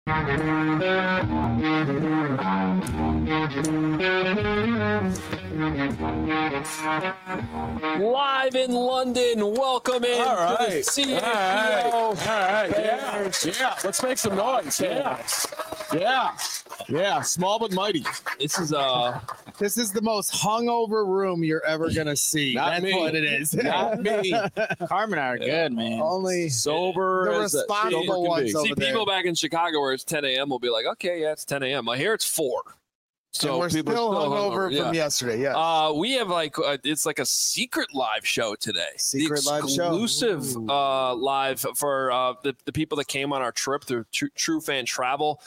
Live in London, welcome in All right. to the CHGO. All right. Yeah. Let's make some noise. Yeah. Small but mighty. This is This is the most hungover room you're ever gonna see. Not That's me. what it is. Not me. Carmen are good, man. Only Sober the as a responsible sober can ones be. over see there. people back in Chicago where it's 10 a.m. will be like, okay, yeah, it's 10 a.m. I hear it's 4. So and we're people still are hungover yeah. from yesterday. Yeah. We have it's like a secret live show today. Secret the live show. exclusive live for the people that came on our trip through True Fan Travel.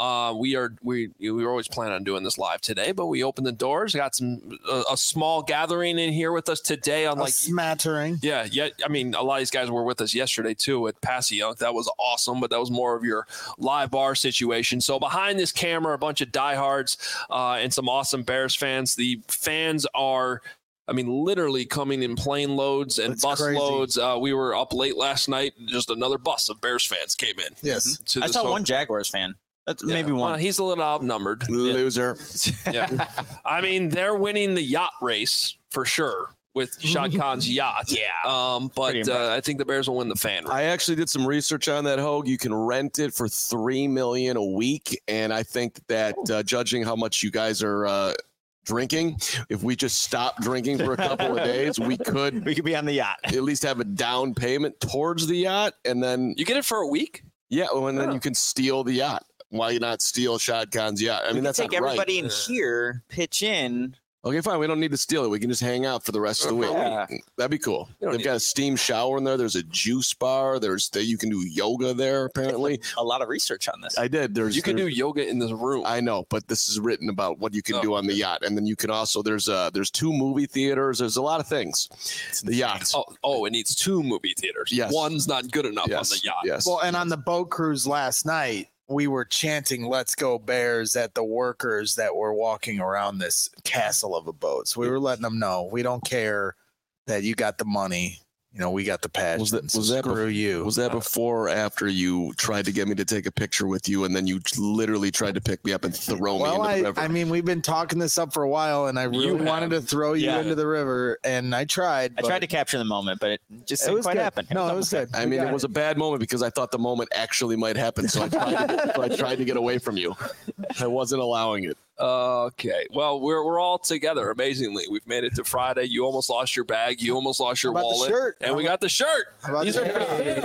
We were always planning on doing this live today, but we opened the doors. Got a small gathering in here with us today. On A smattering. Yeah. I mean, a lot of these guys were with us yesterday too at Passaic. That was awesome, but that was more of your live bar situation. So behind this camera, a bunch of diehards and some awesome Bears fans. The fans are, I mean, literally coming in plane loads and That's bus crazy. loads. We were up late last night. Just another bus of Bears fans came in. Yes. To I this saw ho- one Jaguars fan. That's Yeah. maybe one. He's a little outnumbered. Loser. Yeah. I mean, they're winning the yacht race for sure with Shad Khan's yacht. Yeah. But Pretty impressive. I think the Bears will win the fan race. I actually did some research on that, Hogue. You can rent it for $3 million a week, and I think that judging how much you guys are drinking, if we just stop drinking for a couple of days, we could be on the yacht. at least have a down payment towards the yacht, and then You get it for a week? and then you can steal the yacht. Why not steal Shad Khan's yacht? I mean, that's take not right. everybody in here, pitch in. Okay, fine. We don't need to steal it. We can just hang out for the rest of the week. Yeah. That'd be cool. You don't They've need got a steam shower in there. There's a juice bar. You can do yoga there, apparently. A lot of research on this. I did. You can do yoga in this room. I know, but this is written about what you can do on the yacht. And then you can also, there's 2 movie theaters. There's a lot of things. The yacht. Oh, it needs 2 movie theaters. Yes. One's not good enough on the yacht. Yes. Well, and on the boat cruise last night, we were chanting "Let's go Bears" at the workers that were walking around this castle of a boat. So we were letting them know we don't care that you got the money. You know, we got the passion. Was that screw you? Was that before or after you tried to get me to take a picture with you, and then you literally tried to pick me up and throw me into the river? I mean, we've been talking this up for a while, and I really wanted to throw you into the river, and I tried. I tried to capture the moment, but it just didn't was quite good. happen. No, it was good. I mean, it was a bad moment because I thought the moment actually might happen, so I tried to get away from you. I wasn't allowing it. Okay. Well, we're all together. Amazingly, we've made it to Friday. You almost lost your bag. You almost lost your How about the wallet. shirt? And we got the shirt. These are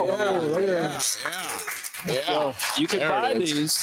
Yeah. You can There buy it is. these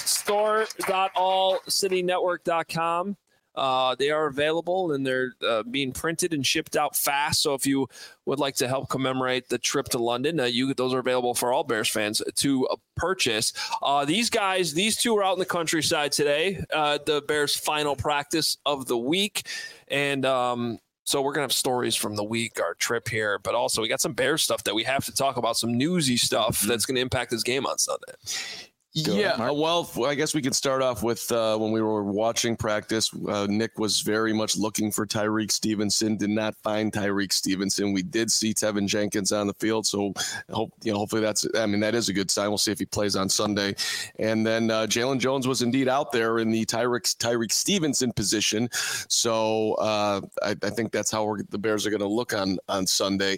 store.allcitynetwork.com. They are available and they're being printed and shipped out fast. So if you would like to help commemorate the trip to London, those are available for all Bears fans to purchase. These 2 are out in the countryside today. The Bears' final practice of the week, and so we're gonna have stories from the week, our trip here, but also we got some Bears stuff that we have to talk about, some newsy stuff that's going to impact this game on Sunday. Well, I guess we could start off with when we were watching practice. Nick was very much looking for Tyreek Stevenson, did not find Tyreek Stevenson. We did see Tevin Jenkins on the field, so hopefully that is a good sign. We'll see if he plays on Sunday. And then Jalen Jones was indeed out there in the Tyreek Stevenson position. So I think that's how the Bears are going to look on Sunday.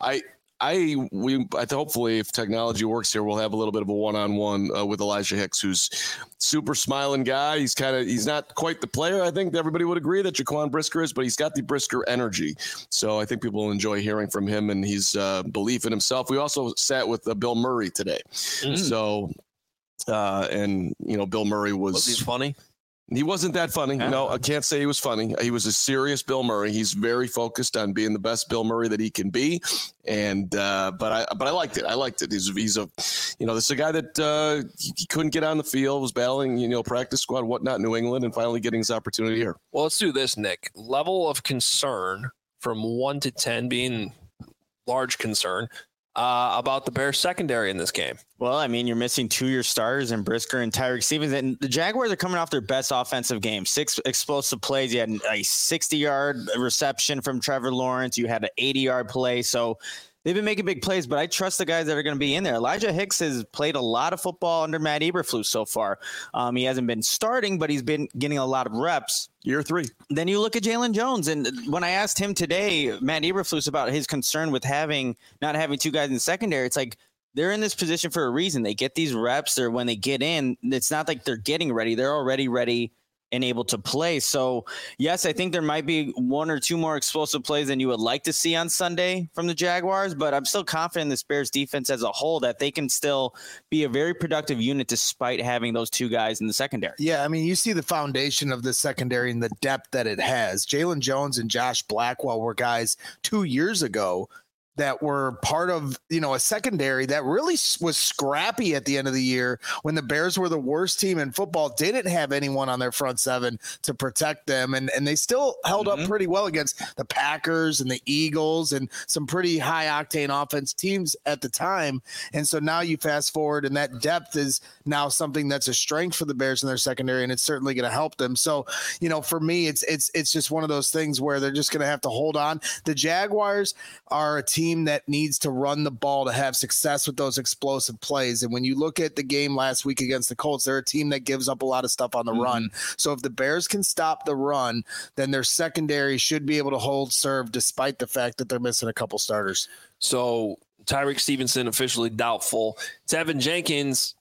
Hopefully if technology works here, we'll have a little bit of a one-on-one with Elijah Hicks, who's super smiling guy. He's not quite the player I think everybody would agree that Jaquan Brisker is, but he's got the Brisker energy. So I think people will enjoy hearing from him and his belief in himself. We also sat with Bill Murray today. So, Bill Murray was he funny? He wasn't that funny. No, I can't say he was funny. He was a serious Bill Murray. He's very focused on being the best Bill Murray that he can be. And but I liked it. I liked it. He's a this is a guy that he couldn't get on the field, was battling practice squad, whatnot, New England, and finally getting his opportunity here. Well, let's do this, Nick. Level of concern from 1 to 10 being large concern about the Bears secondary in this game. Well, I mean, you're missing 2 of your starters in Brisker and Tyreek Stevens, and the Jaguars are coming off their best offensive game. 6 explosive plays. You had a 60-yard reception from Trevor Lawrence. You had an 80-yard play. So they've been making big plays, but I trust the guys that are going to be in there. Elijah Hicks has played a lot of football under Matt Eberflus so far. He hasn't been starting, but he's been getting a lot of reps. Year 3. Then you look at Jalen Jones, and when I asked him today, Matt Eberflus, about his concern with not having 2 guys in the secondary, it's like they're in this position for a reason. They get these reps, or when they get in, it's not like they're getting ready. They're already ready and able to play. So, yes, I think there might be 1 or 2 more explosive plays than you would like to see on Sunday from the Jaguars, but I'm still confident in this Bears defense as a whole that they can still be a very productive unit despite having those 2 guys in the secondary. Yeah, I mean, you see the foundation of the secondary and the depth that it has. Jalen Jones and Josh Blackwell were guys 2 years ago that were part of, a secondary that really was scrappy at the end of the year when the Bears were the worst team in football, didn't have anyone on their front 7 to protect them. And they still held up pretty well against the Packers and the Eagles and some pretty high octane offense teams at the time. And so now you fast forward, and that depth is now something that's a strength for the Bears in their secondary, and it's certainly going to help them. So, for me, it's just one of those things where they're just going to have to hold on. The Jaguars are a team that needs to run the ball to have success with those explosive plays. And when you look at the game last week against the Colts, they're a team that gives up a lot of stuff on the run. So if the Bears can stop the run, then their secondary should be able to hold serve despite the fact that they're missing a couple starters. So Tyreek Stevenson officially doubtful. Tevin Jenkins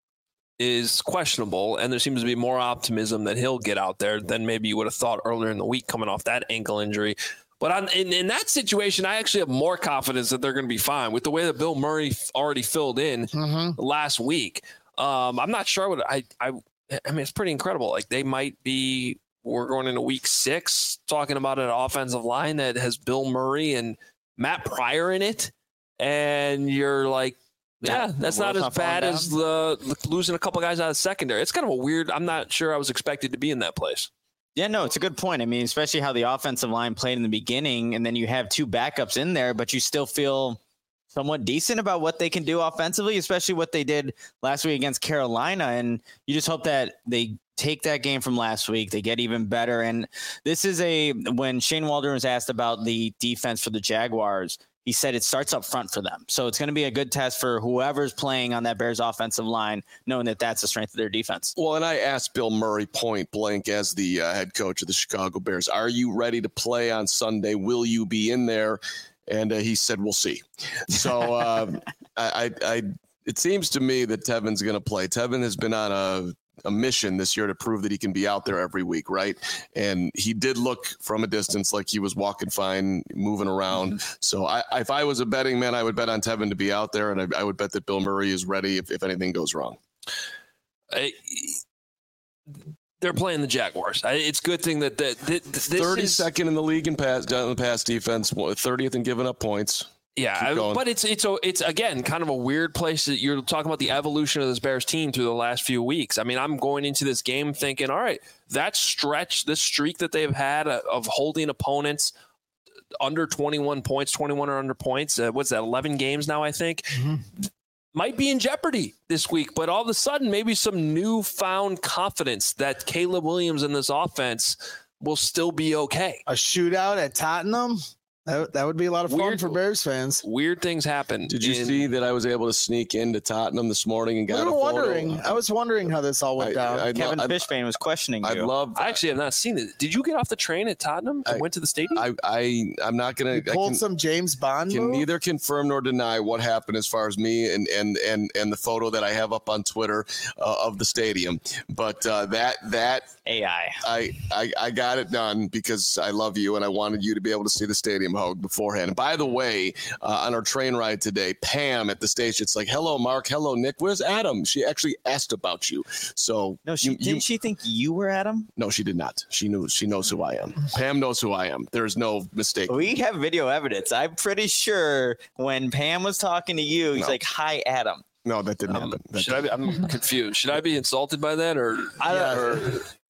is questionable, and there seems to be more optimism that he'll get out there than maybe you would have thought earlier in the week coming off that ankle injury. But in that situation, I actually have more confidence that they're going to be fine with the way that Bill Murray already filled in last week. I'm not sure what I mean, it's pretty incredible. Like we're going into week 6 talking about an offensive line that has Bill Murray and Matt Pryor in it. And you're like, yeah, that's not as bad as losing a couple guys out of the secondary. It's kind of a weird, I'm not sure I was expected to be in that place. Yeah, no, it's a good point. I mean, especially how the offensive line played in the beginning, and then you have 2 backups in there, but you still feel somewhat decent about what they can do offensively, especially what they did last week against Carolina. And you just hope that they take that game from last week, they get even better. And this is when Shane Waldron was asked about the defense for the Jaguars, he said it starts up front for them. So it's going to be a good test for whoever's playing on that Bears offensive line, knowing that that's the strength of their defense. Well, and I asked Bill Murray point blank as the head coach of the Chicago Bears, are you ready to play on Sunday? Will you be in there? And he said, we'll see. So it seems to me that Tevin's going to play. Tevin has been on a mission this year to prove that he can be out there every week, right? And he did look from a distance like he was walking fine, moving around. So if I was a betting man, I would bet on Tevin to be out there, and I would bet that Bill Murray is ready if anything goes wrong. They're playing the Jaguars. It's a good thing that this 32nd in the league in pass defense, 30th in giving up points. Yeah, but it's again kind of a weird place that you're talking about the evolution of this Bears team through the last few weeks. I mean, I'm going into this game thinking, all right, that stretch, this streak that they've had of holding opponents under 21 points, 21 or under points, what's that, 11 games now, I think, might be in jeopardy this week. But all of a sudden, maybe some newfound confidence that Caleb Williams in this offense will still be okay. A shootout at Tottenham? That would be a lot of fun for Bears fans. Weird things happen. Did you see that I was able to sneak into Tottenham this morning and got a photo? I was wondering how this all went down. Kevin Fishbane was questioning you. I actually have not seen it. Did you get off the train at Tottenham and went to the stadium? I'm not going to. Pulled some James Bond. Can neither confirm nor deny what happened as far as me and the photo that I have up on Twitter of the stadium. But that AI. I got it done because I love you and I wanted you to be able to see the stadium hug beforehand. And by the way, on our train ride today, Pam at the station, it's like, hello, Mark. Hello, Nick. Where's Adam? She actually asked about you. So no, didn't she think you were Adam? No, she did not. She knows who I am. Pam knows who I am. There's no mistake. We have video evidence. I'm pretty sure when Pam was talking to you, he's like, hi, Adam. No, that didn't happen. I'm confused. Should I be insulted by that or?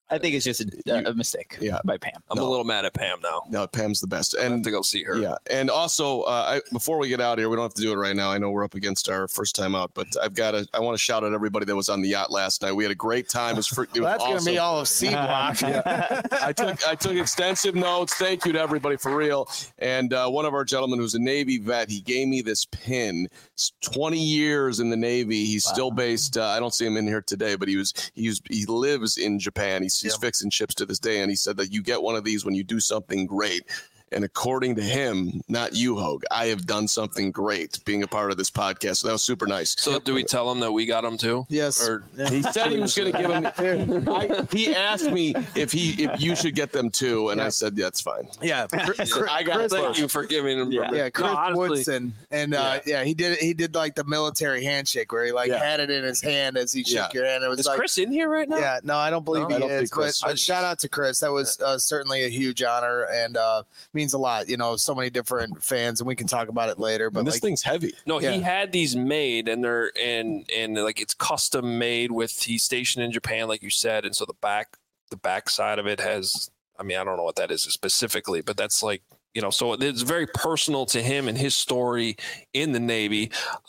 I think it's just a mistake by Pam. I'm a little mad at Pam now. No, Pam's the best. And I have to go see her. Yeah. And also, before we get out of here, we don't have to do it right now. I know we're up against our first time out, but I want to shout out everybody that was on the yacht last night. We had a great time. It was That's awesome. going to be all of C Block. I took extensive notes. Thank you to everybody for real. And one of our gentlemen who's a Navy vet, he gave me this pin. It's 20 years in the Navy. He's still based. I don't see him in here today, but he lives in Japan. He's fixing ships to this day, and he said that you get one of these when you do something great. And according to him, not you, Hogue, I have done something great being a part of this podcast. So that was super nice. So do we tell him that we got him too? Yes. Or he said he was going to give him. He asked me if you should get them too, and I said that's fine. Yeah. Thank you for giving him. Yeah, Chris Woodson, and he did like the military handshake where he had it in his hand as he shook your hand. It was Is Chris in here right now? Yeah, no, I don't believe he is. But shout out to Chris. That was certainly a huge honor and means a lot. So many different fans, and we can talk about it later. But this thing's heavy. No, he had these made, and they're and like it's custom made he's stationed in Japan, like you said, and so the back side of it has. I mean, I don't know what that is specifically, but that's like. So it's very personal to him and his story in the Navy.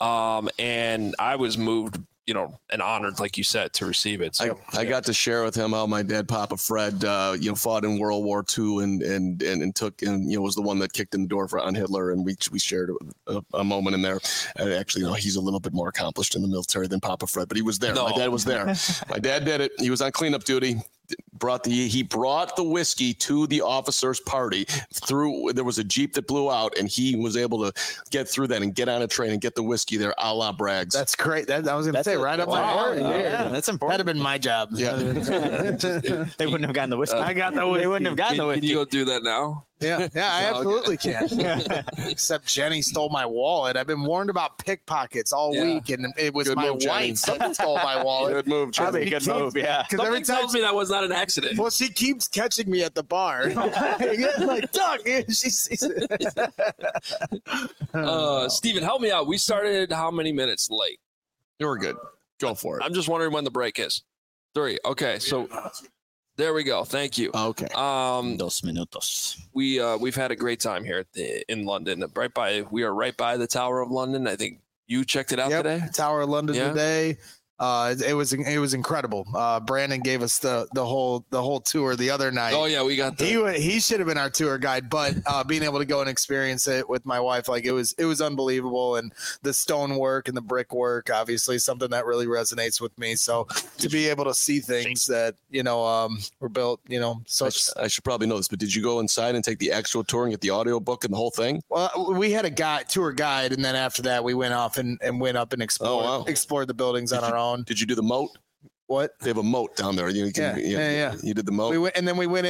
And I was moved, and honored, like you said, to receive it. So I got to share with him how my dad, Papa Fred, fought in World War II and took was the one that kicked in the door on Hitler, and we shared a moment in there. Actually, he's a little bit more accomplished in the military than Papa Fred, but he was there. No. My dad was there. My dad did it. He was on cleanup duty. He brought the whiskey to the officers' party. There was a Jeep that blew out, and he was able to get through that and get on a train and get the whiskey there, a la Braggs. That's great. I was going to say right up my alley. Yeah, that's important. That'd have been my job. Yeah, they wouldn't have gotten the whiskey. I got the whiskey. They wouldn't have gotten the whiskey. Can you go do that now? Yeah, I absolutely can. Except Jenny stole my wallet. I've been warned about pickpockets all week, and it was my wife that stole my wallet. Good move, Jenny. Good move, yeah. Because every time tells me that was not an accident. Well, she keeps catching me at the bar. Like, Doug, Steven, help me out. We started how many minutes late? You were good. Go for it. I'm just wondering when the break is. 3. Okay, so there we go. Thank you. Okay. 2 minutos. We've had a great time here in London. We are right by the Tower of London. I think you checked it out today. Tower of London today. It was incredible. Brandon gave us the whole tour the other night. Oh yeah, we got he should have been our tour guide, but being able to go and experience it with my wife, like it was unbelievable. And the stonework and the brickwork, obviously something that really resonates with me. So to be able to see things that were built, such. I should probably know this, but did you go inside and take the actual tour and get the audio book and the whole thing? Well, we had a tour guide, and then after that, we went off and went up and explored the buildings on our own. Did you do the moat? What? They have a moat down there. You did the moat. We went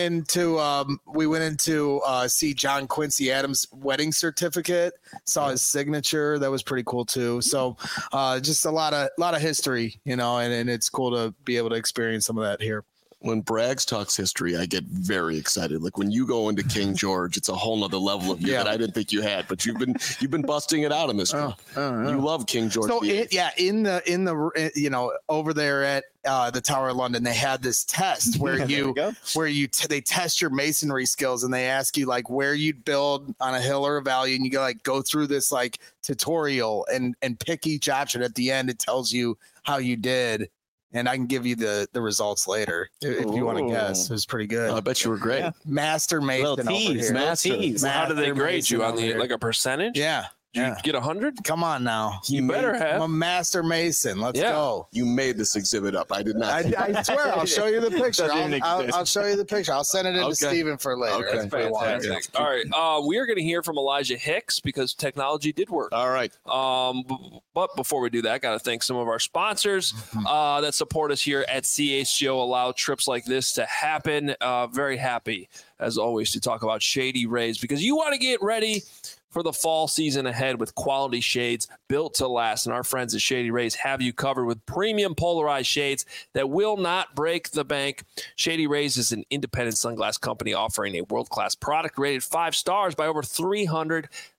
into see John Quincy Adams' wedding certificate. Saw his signature. That was pretty cool too. So just a lot of history, and it's cool to be able to experience some of that here. When Braggs talks history, I get very excited. Like when you go into King George, it's a whole nother level of you that I didn't think you had. But you've been busting it out in this. You love King George. So in the over there at the Tower of London, they had this test where they test your masonry skills, and they ask you like where you'd build on a hill or a valley, and you go through this like tutorial and pick each option. At the end, it tells you how you did. And I can give you the results later if you want to guess. It was pretty good. I bet you were great. Yeah. Master Mason. How did they grade you on like a percentage? Yeah. Did you get 100? Come on now. You better have. I'm a Master Mason. Let's go. You made this exhibit up. I did not. I swear. I'll show you the picture. I'll show you the picture. I'll send it in to Steven for later. Okay. Fantastic. All right. We are going to hear from Elijah Hicks because technology did work. All right. But before we do that, I got to thank some of our sponsors that support us here at CHGO, allow trips like this to happen. Very happy, as always, to talk about Shady Rays because you want to get ready for the fall season ahead with quality shades built to last. And our friends at Shady Rays have you covered with premium polarized shades that will not break the bank. Shady Rays is an independent sunglass company offering a world-class product rated 5 stars by over 300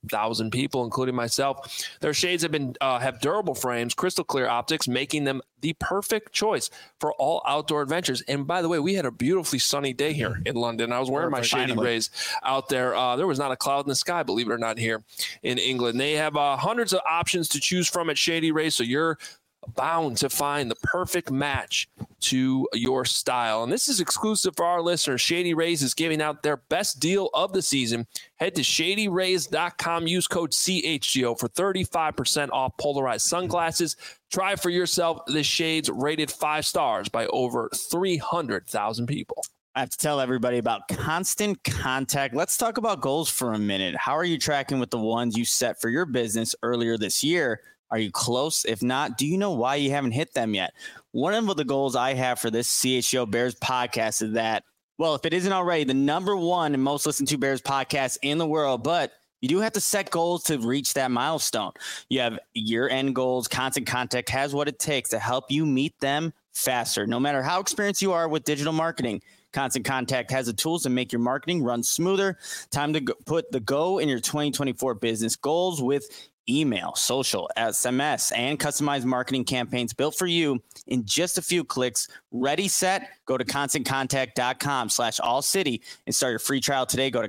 1,000 people, including myself. Their shades have durable frames, crystal clear optics, making them the perfect choice for all outdoor adventures. And by the way, we had a beautifully sunny day here in London. I was wearing my Shady Rays out there. There was not a cloud in the sky, believe it or not, here in England. They have hundreds of options to choose from at Shady Rays, so you're bound to find the perfect match to your style. And this is exclusive for our listeners. Shady Rays is giving out their best deal of the season. Head to shadyrays.com. Use code CHGO for 35% off polarized sunglasses. Try for yourself the shades rated 5 stars by over 300,000 people. I have to tell everybody about Constant Contact. Let's talk about goals for a minute. How are you tracking with the ones you set for your business earlier this year? Are you close? If not, do you know why you haven't hit them yet? One of the goals I have for this CHGO Bears podcast is that, well, if it isn't already, the #1 and most listened to Bears podcast in the world, but you do have to set goals to reach that milestone. You have year-end goals. Constant Contact has what it takes to help you meet them faster. No matter how experienced you are with digital marketing, Constant Contact has the tools to make your marketing run smoother. Time to put the go in your 2024 business goals with email, social, SMS, and customized marketing campaigns built for you in just a few clicks. Ready, set, go to constantcontact.com/allcity and start your free trial today. Go to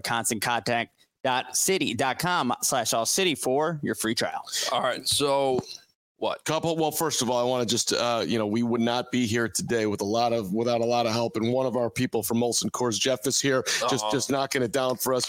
constantcontact.city.com/allcity for your free trial. All right. So what? Well, first of all, I want to just, we would not be here today without a lot of help. And one of our people from Molson Coors, Jeff, is here, just knocking it down for us.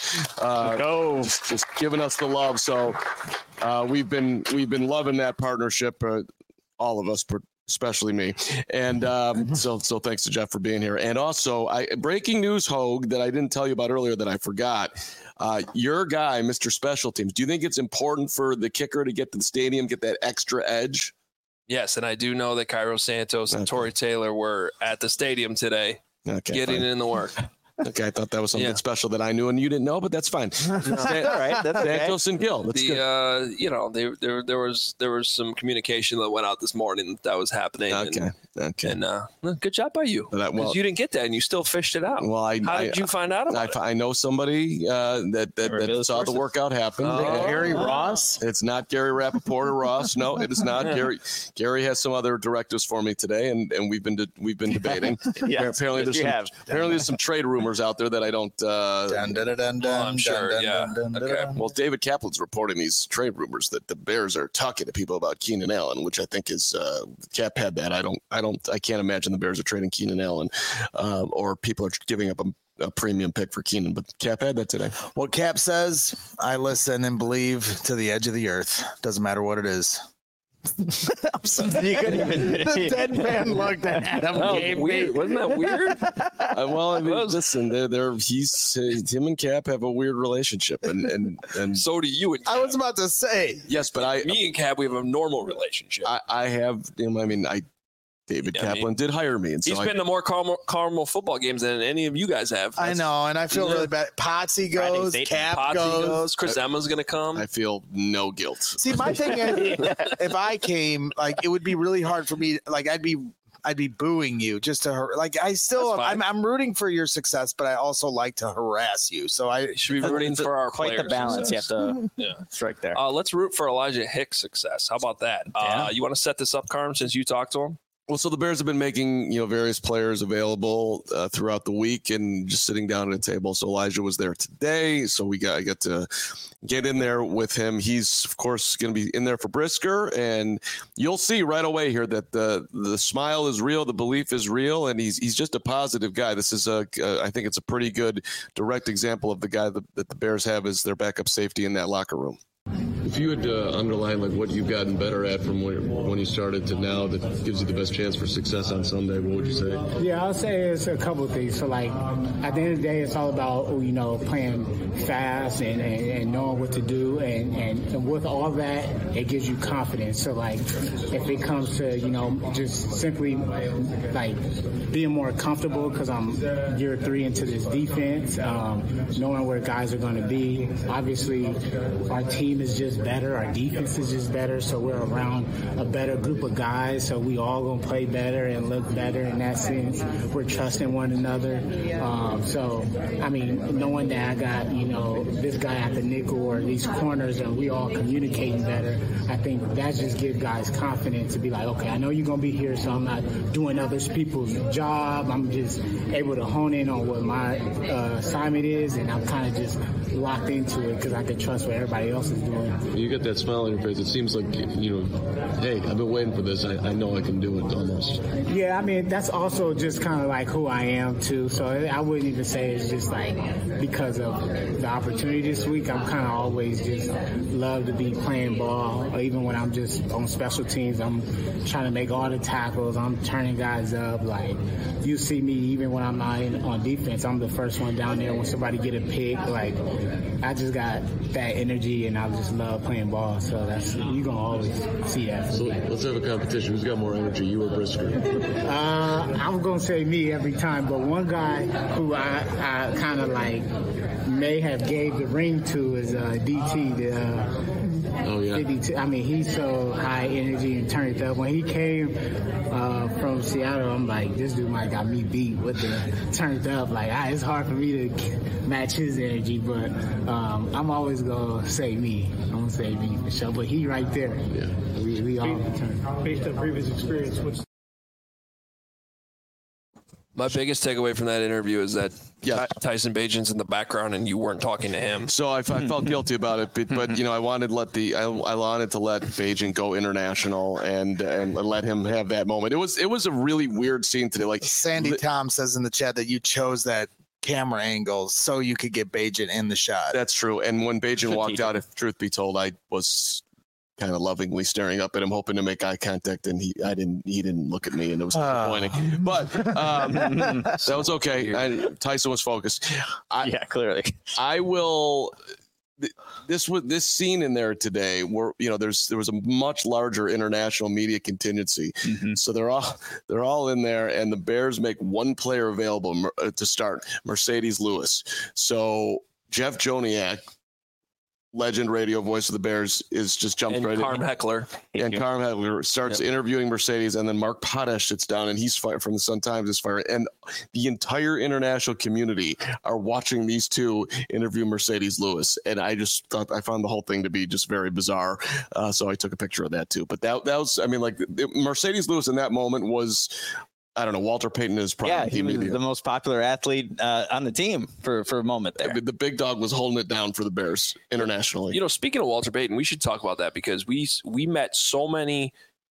Just giving us the love. So we've been loving that partnership, all of us, especially me. And so thanks to Jeff for being here. And also, breaking news, Hogue, that I didn't tell you about earlier that I forgot. Your guy, Mr. Special Teams, do you think it's important for the kicker to get to the stadium, get that extra edge? Yes, and I do know that Cairo Santos and Torrey Taylor were at the stadium today getting in the work. Okay, I thought that was something special that I knew and you didn't know, but that's fine. All right, that's okay. Santos and Gill. That's good. There was some communication that went out this morning that was happening. Okay. And good job by you. Because you didn't get that and you still fished it out. Well, how did you find out about it? I know somebody that saw the workout happen. Gary Ross? It's not Gary Rappaport or Ross. No, it is not Gary. Gary has some other directives for me today, and we've been debating. Yes, apparently there's some trade rumors out there that I don't. I'm sure. Okay. Well, David Kaplan's reporting these trade rumors that the Bears are talking to people about Keenan Allen, which I think is Cap had that. I can't imagine the Bears are trading Keenan Allen, or people are giving up a premium pick for Keenan. But Cap had that today. What Cap says, I listen and believe to the edge of the earth. Doesn't matter what it is. I'm sorry, you couldn't even the dead man looked at Adam. Weird. Wasn't that weird? Listen, him and Cap have a weird relationship, and so do you. And Cap. I was about to say yes, but me and Cap, we have a normal relationship. I have. David Kaplan did hire me, and so he's been to more Carmel football games than any of you guys have. I know, and I feel really bad. Potsy goes, Cap goes. Chris Emma's going to come. I feel no guilt. See, my thing is, if I came, it would be really hard for me. I'd be booing you just to I'm rooting for your success, but I also like to harass you. So I should be rooting for our quite players. the balance. Success. You have to strike there. Let's root for Elijah Hicks' success. How about that? You want to set this up, Carm, since you talked to him? Well, so the Bears have been making, various players available throughout the week and just sitting down at a table. So Elijah was there today. So I got to get in there with him. He's, of course, going to be in there for Brisker. And you'll see right away here that the smile is real. The belief is real. And he's just a positive guy. This is I think it's a pretty good direct example of the guy that the Bears have as their backup safety in that locker room. If you had to underline what you've gotten better at from when you started to now that gives you the best chance for success on Sunday, what would you say? Yeah, I'll say it's a couple of things. So, at the end of the day, it's all about, playing fast and knowing what to do. And with all that, it gives you confidence. So, if it comes to, just simply, being more comfortable because I'm year 3 into this defense, knowing where guys are going to be. Obviously, our team is just just better. Our defense is just better. So we're around a better group of guys. So we all going to play better and look better in that sense. We're trusting one another. So, I mean, knowing that I got, you know, this guy at the nickel or these corners and we all communicating better, I think that just gives guys confidence to be like, okay, I know you're going to be here, so I'm not doing other people's job. I'm just able to hone in on what my assignment is, and I'm kind of just locked into it because I can trust what everybody else is doing. You get that smile on your face. It seems like, you know, hey, I've been waiting for this. I know I can do it almost. Yeah, I mean, that's also just kind of like who I am, too. So I wouldn't even say it's just like because of the opportunity this week. I'm kind of always just love to be playing ball, or even when I'm just on special teams, I'm trying to make all the tackles. I'm turning guys up. Like, you see me even when I'm not on defense, I'm the first one down there when somebody get a pick. Like, I just got that energy, and I just love playing ball. So that's, you're going to always see that. So let's have a competition. Who's got more energy, you or Brisker? I'm going to say me every time, but one guy who I kind of like may have gave the ring to is DT, Oh, yeah. 52. I mean, he's so high energy and turned up. When he came from Seattle, I'm like, this dude might got me beat with the turned up. Like, it's hard for me to match his energy, but I'm always going to say me. I'm going to say me for sure. But he right there. Yeah. We all turn. Based on previous experience, what's My biggest takeaway from that interview is that Tyson Bagent's in the background and you weren't talking to him. So I felt guilty about it, but you know, I wanted to let Bagent go international and let him have that moment. It was a really weird scene today. Like Sandy Tom says in the chat that you chose that camera angle so you could get Bagent in the shot. That's true. And when Bagent walked out, if truth be told, I was kind of lovingly staring up at him, hoping to make eye contact, and he didn't look at me, and it was disappointing. But that was okay. Tyson was focused. Yeah, clearly. I will. This scene in there today, where you know there was a much larger international media contingency, so they're all in there, and the Bears make one player available to start, Mercedes Lewis. So Jeff Joniak, legend radio voice of the Bears, is just jumped right in. Carm Heckler. And Carm Heckler starts interviewing Mercedes, and then Mark Potash sits down, and he's fired from the Sun-Times is fired. And the entire international community are watching these two interview Mercedes Lewis. And I just thought, I found the whole thing to be just very bizarre. So I took a picture of that too. But that was, I mean, like Mercedes Lewis in that moment was, I don't know, Walter Payton is probably he was the most popular athlete on the team for a moment there. The big dog was holding it down for the Bears internationally. You know, speaking of Walter Payton, we should talk about that because we met so many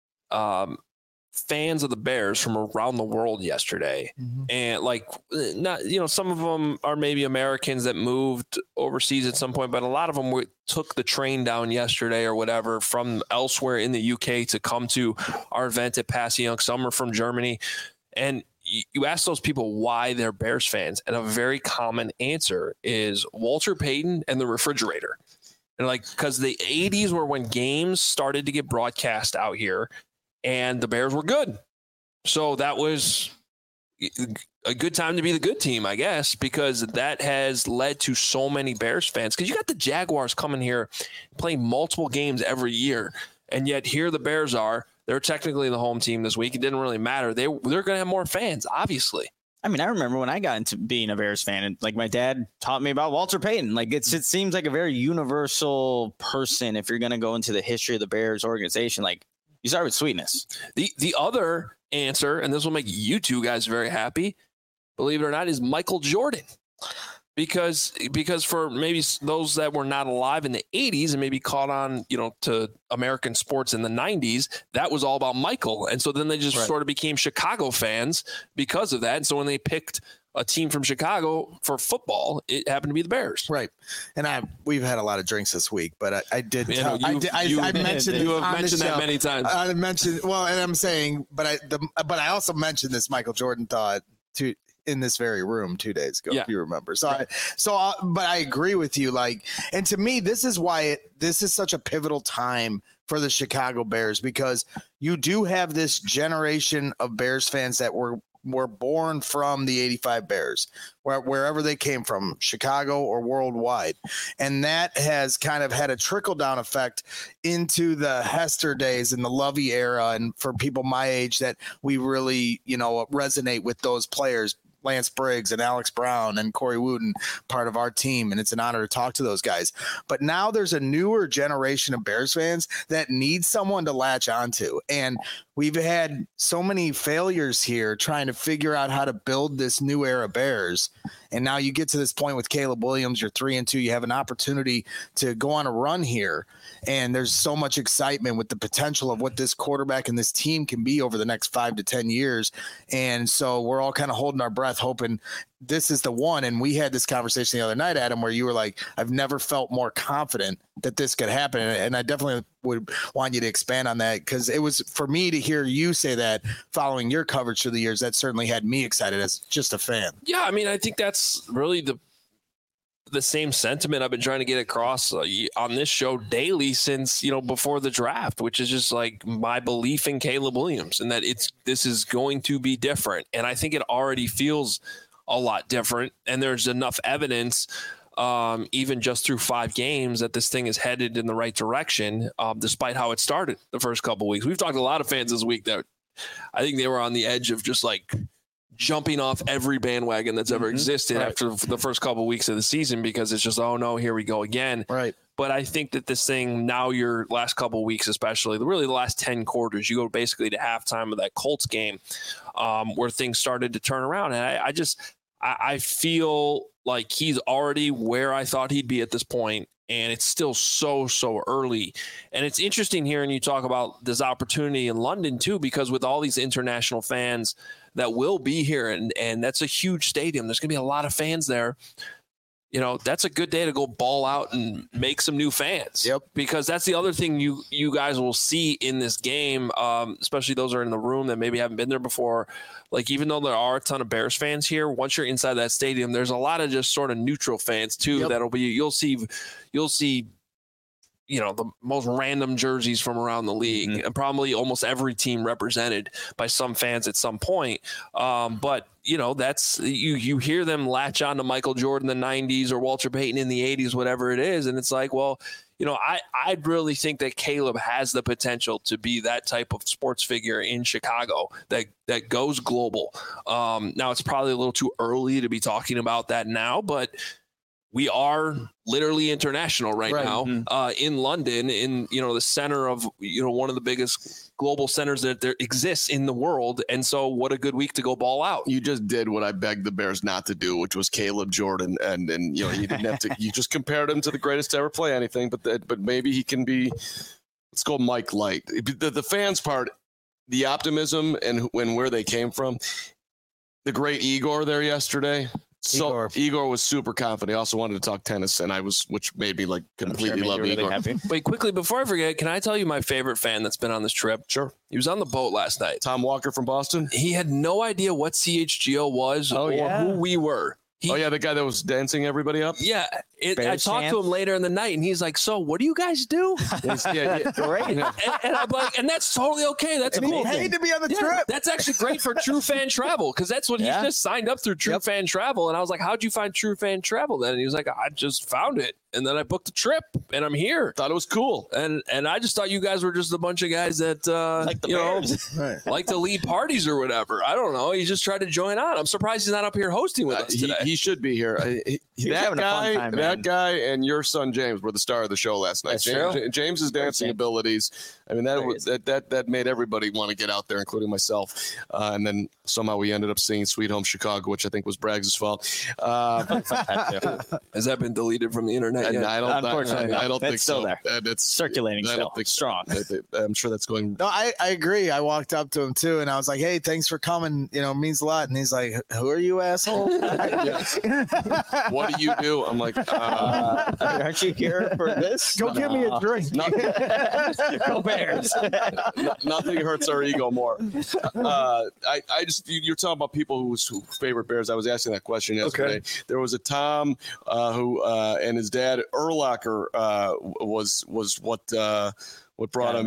fans of the Bears from around the world yesterday. And like, not, you know, some of them are maybe Americans that moved overseas at some point, but a lot of them took the train down yesterday or whatever from elsewhere in the UK to come to our event at Passy. Some are from Germany. And you ask those people why they're Bears fans, and a very common answer is Walter Payton and the refrigerator. And like, because the 80s were when games started to get broadcast out here, and the Bears were good. So that was a good time to be the good team, I guess, because that has led to so many Bears fans. Because you got the Jaguars coming here, playing multiple games every year, and yet here the Bears are. They're technically the home team this week. It didn't really matter. They're going to have more fans, obviously. I mean, I remember when I got into being a Bears fan, and like my dad taught me about Walter Payton. Like it seems like a very universal person. If you're going to go into the history of the Bears organization, like you start with sweetness. The other answer, and this will make you two guys very happy, believe it or not, is Michael Jordan. Because for maybe those that were not alive in the 80s and maybe caught on, you know, to American sports in the 90s, that was all about Michael. And so then they just sort of became Chicago fans because of that. And so when they picked a team from Chicago for football, it happened to be the Bears. Right. And we've had a lot of drinks this week, but I mentioned you have mentioned that many times. I mentioned, well, and I'm saying, but I also mentioned this Michael Jordan thought in this very room 2 days ago, if you remember. But I agree with you. Like, and to me, this is why this is such a pivotal time for the Chicago Bears, because you do have this generation of Bears fans that were were born from the 85 Bears, wherever they came from, Chicago or worldwide. And that has kind of had a trickle-down effect into the Hester days and the Lovey era. And for people my age that we really, resonate with those players, Lance Briggs and Alex Brown and Corey Wooten, part of our team. And it's an honor to talk to those guys. But now there's a newer generation of Bears fans that need someone to latch onto. And we've had so many failures here trying to figure out how to build this new era Bears. And now you get to this point with Caleb Williams, you're 3-2, you have an opportunity to go on a run here. And there's so much excitement with the potential of what this quarterback and this team can be over the next 5 to 10 years. And so we're all kind of holding our breath, hoping this is the one. And we had this conversation the other night, Adam, where you were like, I've never felt more confident that this could happen. And I definitely would want you to expand on that, because it was, for me to hear you say that following your coverage through the years, that certainly had me excited as just a fan. Yeah, I mean, I think that's really the same sentiment I've been trying to get across on this show daily since, before the draft, which is just like my belief in Caleb Williams and that this is going to be different. And I think it already feels a lot different. And there's enough evidence, even just through 5 games, that this thing is headed in the right direction, despite how it started the first couple of weeks. We've talked to a lot of fans this week that I think they were on the edge of just like jumping off every bandwagon that's ever existed after the first couple of weeks of the season, because it's just, oh no, here we go again. Right. But I think that this thing now, your last couple of weeks, especially really the last 10 quarters, you go basically to halftime of that Colts game, where things started to turn around. And I feel like he's already where I thought he'd be at this point. And it's still so early. And it's interesting hearing you talk about this opportunity in London too, because with all these international fans that will be here, and that's a huge stadium, there's going to be a lot of fans there. That's a good day to go ball out and make some new fans. Yep. Because that's the other thing you guys will see in this game, especially those who are in the room that maybe haven't been there before. Like, even though there are a ton of Bears fans here, once you're inside that stadium, there's a lot of just sort of neutral fans too. Yep. That'll be, you'll see, the most random jerseys from around the league, and probably almost every team represented by some fans at some point. But that's, you hear them latch on to Michael Jordan in the 90s or Walter Payton in the 80s, whatever it is. And it's like, well, I really think that Caleb has the potential to be that type of sports figure in Chicago that goes global. Now it's probably a little too early to be talking about that now, but we are literally international right now, in London, in the center of one of the biggest global centers that there exists in the world. And so, what a good week to go ball out. You just did what I begged the Bears not to do, which was Caleb Jordan, and you didn't have to. You just compared him to the greatest to ever play anything, but maybe he can be. Let's go Mike Light. The fans part, the optimism and where they came from. The great Igor there yesterday. So Igor was super confident. He also wanted to talk tennis, and which made me completely love Igor. Really Wait, quickly before I forget, can I tell you my favorite fan that's been on this trip? Sure. He was on the boat last night. Tom Walker from Boston. He had no idea what CHGO was or who we were. The guy that was dancing everybody up? Yeah. I talked to him later in the night, and he's like, so what do you guys do? Great. And I'm like, and that's totally okay. That's cool. He paid to be on the trip. That's actually great for True Fan Travel, because that's what he just signed up through True Fan Travel. And I was like, how'd you find True Fan Travel then? And he was like, I just found it. And then I booked the trip, and I'm here. Thought it was cool. And I just thought you guys were just a bunch of guys that, like to lead parties or whatever. I don't know. He just tried to join on. I'm surprised he's not up here hosting with us today. He should be here. That guy and your son James were the star of the show last night. James's dancing abilities. I mean, that made everybody want to get out there, including myself. And then somehow we ended up singing "Sweet Home Chicago," which I think was Braggs' fault. Has that been deleted from the internet yet? Unfortunately, I don't think still so. there. And it's circulating. I don't think strong. I'm sure that's going. No, I agree. I walked up to him too, and I was like, "Hey, thanks for coming. It means a lot." And he's like, "Who are you, asshole?" What do you do? I'm like, aren't you here for this? Go give me a drink. Go Bears. Nothing hurts our ego more. I just, you're talking about people whose favorite Bears. I was asking that question yesterday. Okay. There was a Tom who and his dad Urlacher was what brought him in.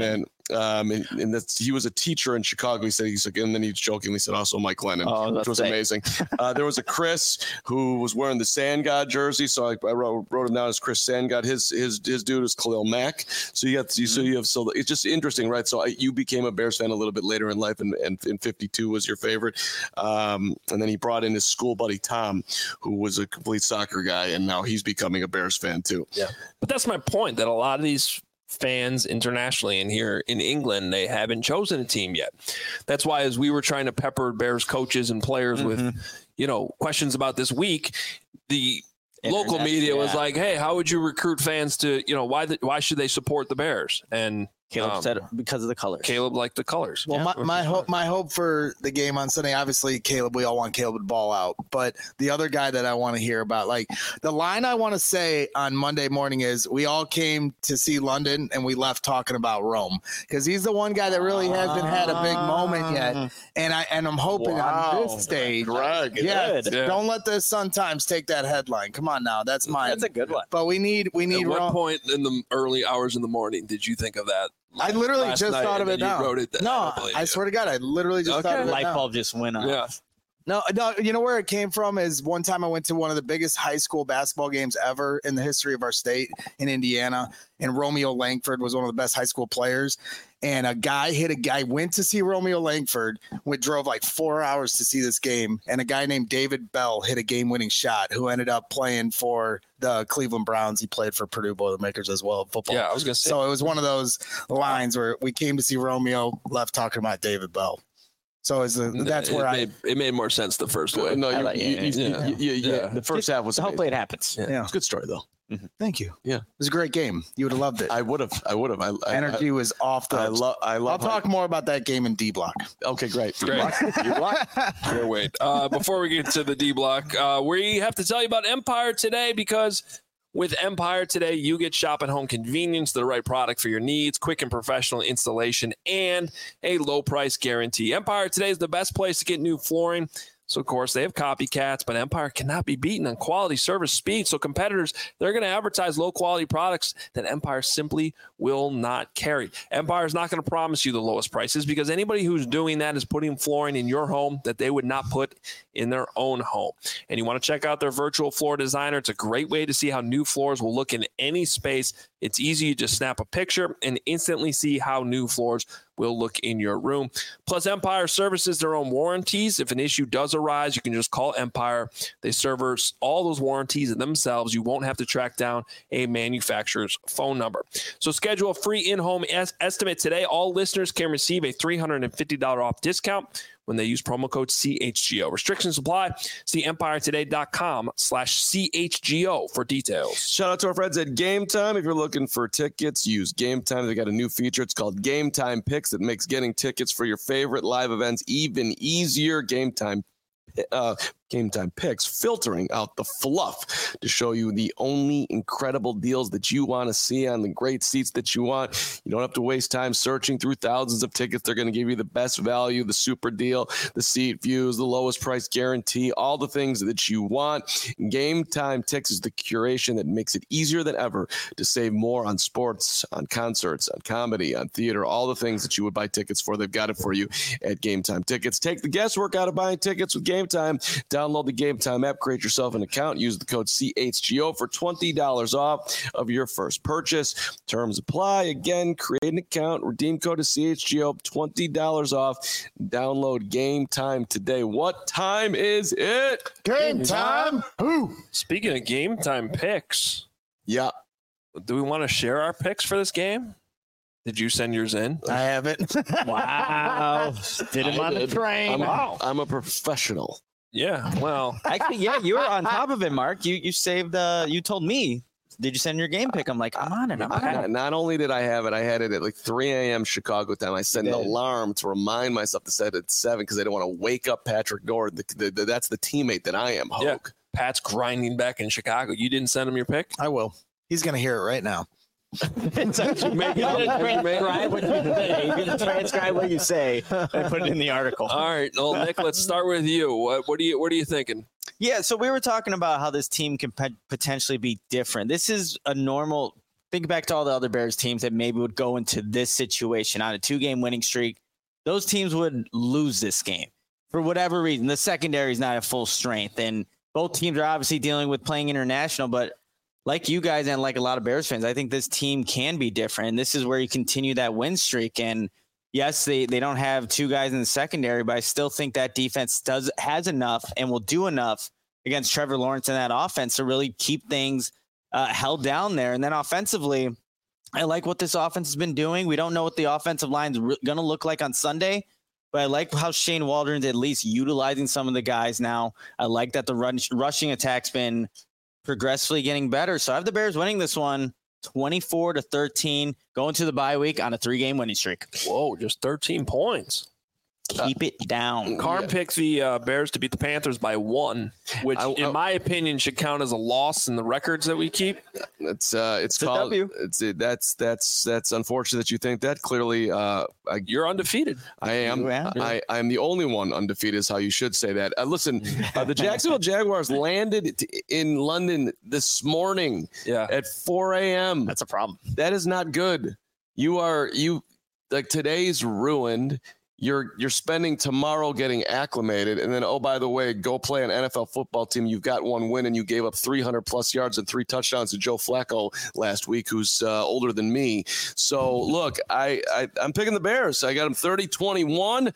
And that's, he was a teacher in Chicago. He said, and then he jokingly said also Mike Lennon, which was amazing. There was a Chris who was wearing the Sand God jersey. So I wrote him down as Chris Sand God. His dude is Khalil Mack. So it's just interesting, right? So you became a Bears fan a little bit later in life, and 52 was your favorite. And then he brought in his school buddy, Tom, who was a complete soccer guy. And now he's becoming a Bears fan too. Yeah. But that's my point, that a lot of these fans internationally and here in England, they haven't chosen a team yet. That's why, as we were trying to pepper Bears coaches and players with, questions about this week, the local media was like, hey, how would you recruit fans to, why should they support the Bears? And Caleb said because of the colors. Caleb liked the colors. Well, my hope for the game on Sunday, obviously, Caleb, we all want Caleb to ball out. But the other guy that I want to hear about, like the line I want to say on Monday morning is, we all came to see London and we left talking about Rome, because he's the one guy that really hasn't had a big moment yet. And I'm hoping on this stage. Greg, don't let the Sun Times take that headline. Come on now, that's mine. That's a good one. But we need At what Rome. point in the early hours in the morning did you think of that? I literally just thought of it now. Wrote it down. No, I swear to God, I literally just thought of it. Light now. bulb just went on. Yeah. No, you know where it came from is one time I went to one of the biggest high school basketball games ever in the history of our state in Indiana, and Romeo Langford was one of the best high school players. And a guy went to see Romeo Langford, drove like 4 hours to see this game. And a guy named David Bell hit a game-winning shot, who ended up playing for the Cleveland Browns. He played for Purdue Boilermakers as well in football. Yeah, I was going to say. So it was one of those lines where we came to see Romeo, left talking about David Bell. So that's where it made more sense the first way. No, the first half was hopefully it happens. Yeah. It's a good story though. Thank you. Yeah, it was a great game. You would have loved it. I would have. Energy was off the. I'll talk more about that game in D Block. Okay, great. D Block. Can't wait. Before we get to the D Block, we have to tell you about Empire today, because with Empire today, you get shop at home convenience, the right product for your needs, quick and professional installation, and a low price guarantee. Empire today is the best place to get new flooring. So, of course, they have copycats, but Empire cannot be beaten on quality, service, speed. So competitors, they're going to advertise low-quality products that Empire simply will not carry. Empire is not going to promise you the lowest prices, because anybody who's doing that is putting flooring in your home that they would not put in their own home. And you want to check out their virtual floor designer. It's a great way to see how new floors will look in any space. It's easy. You just snap a picture and instantly see how new floors will look in your room. Plus, Empire services their own warranties. If an issue does arise, you can just call Empire. They service all those warranties themselves. You won't have to track down a manufacturer's phone number. So schedule a free in-home estimate today. All listeners can receive a $350 off discount when they use promo code CHGO. Restrictions apply. See empiretoday.com/CHGO for details. Shout out to our friends at Game Time. If you're looking for tickets, use Game Time. They got a new feature. It's called Game Time Picks that makes getting tickets for your favorite live events even easier. Game Time Picks, filtering out the fluff to show you the only incredible deals that you want to see on the great seats that you want. You don't have to waste time searching through thousands of tickets. They're going to give you the best value, the super deal, the seat views, the lowest price guarantee, all the things that you want. Game Time Picks is the curation that makes it easier than ever to save more on sports, on concerts, on comedy, on theater, all the things that you would buy tickets for. They've got it for you at Game Time Tickets. Take the guesswork out of buying tickets with Game Time. Download the Game Time app, create yourself an account, use the code CHGO for $20 off of your first purchase. Terms apply. Again, create an account, redeem code is CHGO, $20 off. Download Game Time today. What time is it? Game time. Who? Speaking of Game Time picks, yeah. Do we want to share our picks for this game? Did you send yours in? I haven't. Wow. Did him on the train. I'm a professional. Yeah, well. Actually, yeah, you were on top of it, Mark. You saved, you told me, did you send your game pick? I'm like, I'm on it. Not only did I have it, I had it at like 3 a.m. Chicago time. I set an alarm to remind myself to set it at 7 because I didn't want to wake up Patrick Nord. That's the teammate that I am, Hoke. Yeah, Pat's grinding back in Chicago. You didn't send him your pick? I will. He's going to hear it right now. It's actually you're gonna transcribe what you say and put it in the article. All right, well, Nick, let's start with you. What are you thinking? Yeah, so we were talking about how this team can potentially be different. This is a normal think back to all the other Bears teams that maybe would go into this situation on a 2-game winning streak. Those teams would lose this game for whatever reason. The secondary is not at full strength, and both teams are obviously dealing with playing international. But like you guys and like a lot of Bears fans, I think this team can be different. And this is where you continue that win streak. And yes, they don't have 2 guys in the secondary, but I still think that defense has enough and will do enough against Trevor Lawrence and that offense to really keep things held down there. And then offensively, I like what this offense has been doing. We don't know what the offensive line is going to look like on Sunday, but I like how Shane Waldron's at least utilizing some of the guys now. I like that the rushing attack's been progressively getting better. So I have the Bears winning this one 24-13, going to the bye week on a 3-game winning streak. Whoa, just 13 points. Keep it down. Carm picked the Bears to beat the Panthers by 1, which in my opinion should count as a loss in the records that we keep. It's called W. That's unfortunate that you think that. Clearly, You're undefeated. I am. Yeah. I'm the only one undefeated, is how you should say that. Listen, the Jacksonville Jaguars landed in London this morning at 4 a.m. That's a problem. That is not good. Today's ruined. You're spending tomorrow getting acclimated, and then, oh, by the way, go play an NFL football team. You've got 1 win, and you gave up 300-plus yards and 3 touchdowns to Joe Flacco last week, who's older than me. So, look, I'm picking the Bears. I got them 30-21,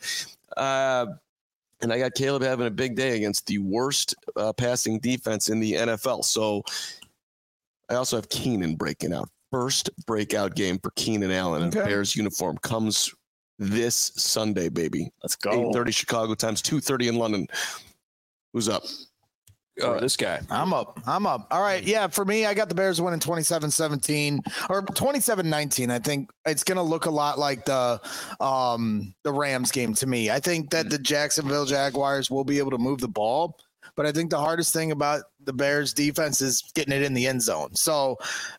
and I got Caleb having a big day against the worst passing defense in the NFL. So I also have Keenan breaking out. First breakout game for Keenan Allen in Bears uniform comes this Sunday, baby. Let's go. 8:30 Chicago times 2:30 in London. Who's up? This guy. I'm up. All right. Yeah, for me, I got the Bears winning 27-17 or 27-19. I think it's going to look a lot like the Rams game to me. I think that the Jacksonville Jaguars will be able to move the ball, but I think the hardest thing about the Bears defense is getting it in the end zone. So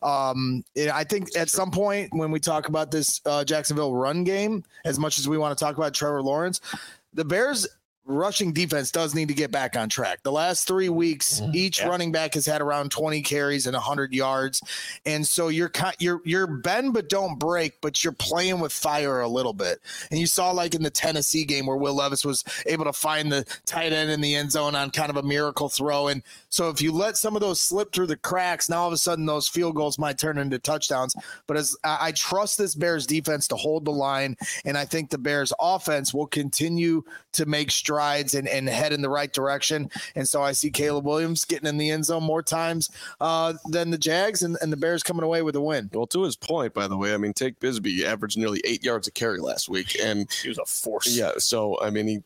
I think at some point when we talk about this Jacksonville run game, as much as we want to talk about Trevor Lawrence, the Bears rushing defense does need to get back on track. The last 3 weeks, each running back has had around 20 carries and 100 yards. And so you're bend but don't break, but you're playing with fire a little bit. And you saw like in the Tennessee game where Will Levis was able to find the tight end in the end zone on kind of a miracle throw. And so if you let some of those slip through the cracks, now all of a sudden those field goals might turn into touchdowns. But as I trust this Bears defense to hold the line, and I think the Bears offense will continue to make strides and head in the right direction. And so I see Caleb Williams getting in the end zone more times than the Jags, and the Bears coming away with a win. Well, to his point, by the way, I mean, Take Bisbee averaged nearly 8 yards a carry last week, and He was a force. yeah. So I mean,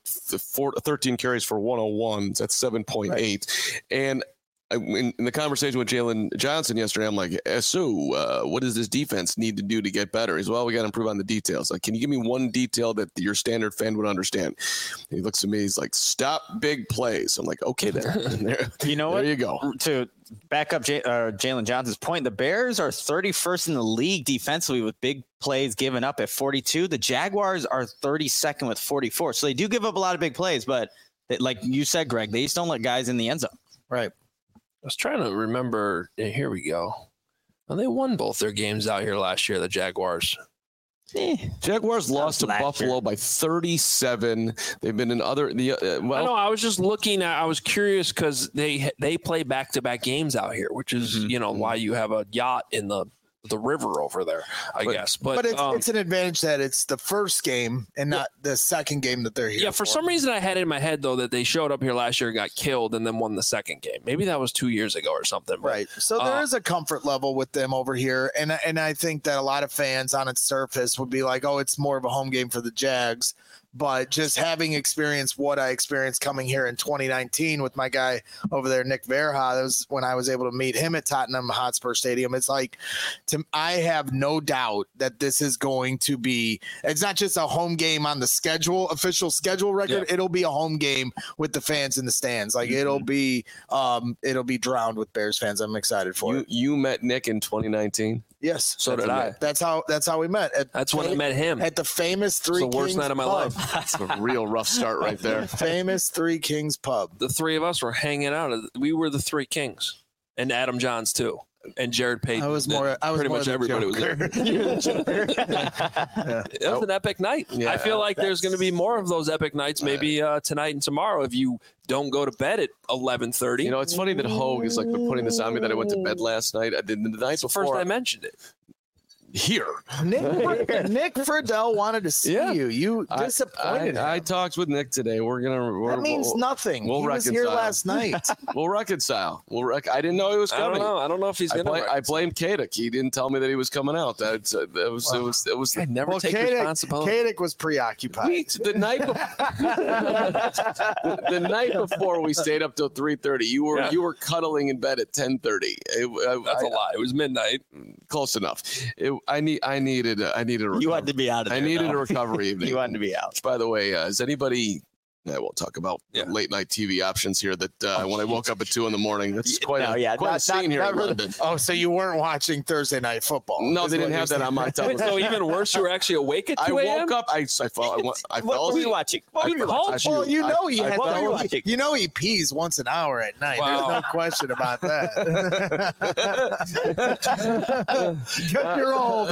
13 carries for 101. That's 7.8, Right. and in the conversation with Jalen Johnson yesterday, I'm like, so what does this defense need to do to get better? He's, well, we got to improve on the details. Like, can you give me one detail that your standard fan would understand? And he looks at me, he's like, stop big plays. I'm like, okay, there. You know what? There you go. To back up Jalen Johnson's point, the Bears are 31st in the league defensively with big plays given up at 42. The Jaguars are 32nd with 44. So they do give up a lot of big plays, but like you said, Greg, they just don't let guys in the end zone. Right. I was trying to remember. Here we go. Well, they won both their games out here last year, the Jaguars. Jaguars lost to last Buffalo year. by 37. They've been in other I know. I was just looking at. I was curious because they play back-to-back games out here, which is why you have a yacht in the river over there, I guess. But it's an advantage that it's the first game and not the second game that they're here. Yeah, for some reason I had it in my head though that they showed up here last year, got killed, and then won the second game. Maybe that was 2 years ago or something. But, Right. So there is a comfort level with them over here. And I think that a lot of fans on its surface would be like, oh, it's more of a home game for the Jags. But just having experienced what I experienced coming here in 2019 with my guy over there, Nick Verha, that was when I was able to meet him at Tottenham Hotspur Stadium. It's like, I have no doubt that this is going to be, it's not just a home game on the schedule, official schedule record. Yeah. It'll be a home game with the fans in the stands. Like it'll be drowned with Bears fans. I'm excited for it. You met Nick in 2019? Yes. So did I. That's how we met. That's when I met him. At the famous Three Kings Kings. The worst night of my life. That's a real rough start right there. Famous Three Kings pub. The three of us were hanging out. We were the Three Kings. And Adam Johns too. and Jared Payton. I was pretty more much the everybody was there. It was an epic night. Yeah, I feel like there's going to be more of those epic nights, maybe tonight and tomorrow, if you don't go to bed at 11:30. You know, it's funny that Hogue is like putting this on me that I went to bed last night. I did the night before. First I mentioned it. Here. Nick Friedel wanted to see you. You disappointed him. I talked with Nick today. That means nothing. We'll he was reconcile. here last night. We'll reconcile. I didn't know he was coming. I don't know if he's going to. I blame Kadek. He didn't tell me that he was coming out. It was. I never take responsibility. Kadek was preoccupied. The night before we stayed up till 3:30. You were cuddling in bed at 10:30. That's a lie. It was midnight. Close enough. I needed a recovery. You had to be out of there. I needed a recovery evening. You wanted to be out. By the way, is anybody? I won't talk about late night TV options here. That when I woke up at 2 a.m, that's quite a scene here in London. Oh, so you weren't watching Thursday Night Football? No, they didn't have that on my television. So even worse, you were actually awake at 2 a.m.? I woke up. I fell. What were you watching? Well, you know he had. What were you watching? You know he pees once an hour at night. Wow. There's no question about that. You're old.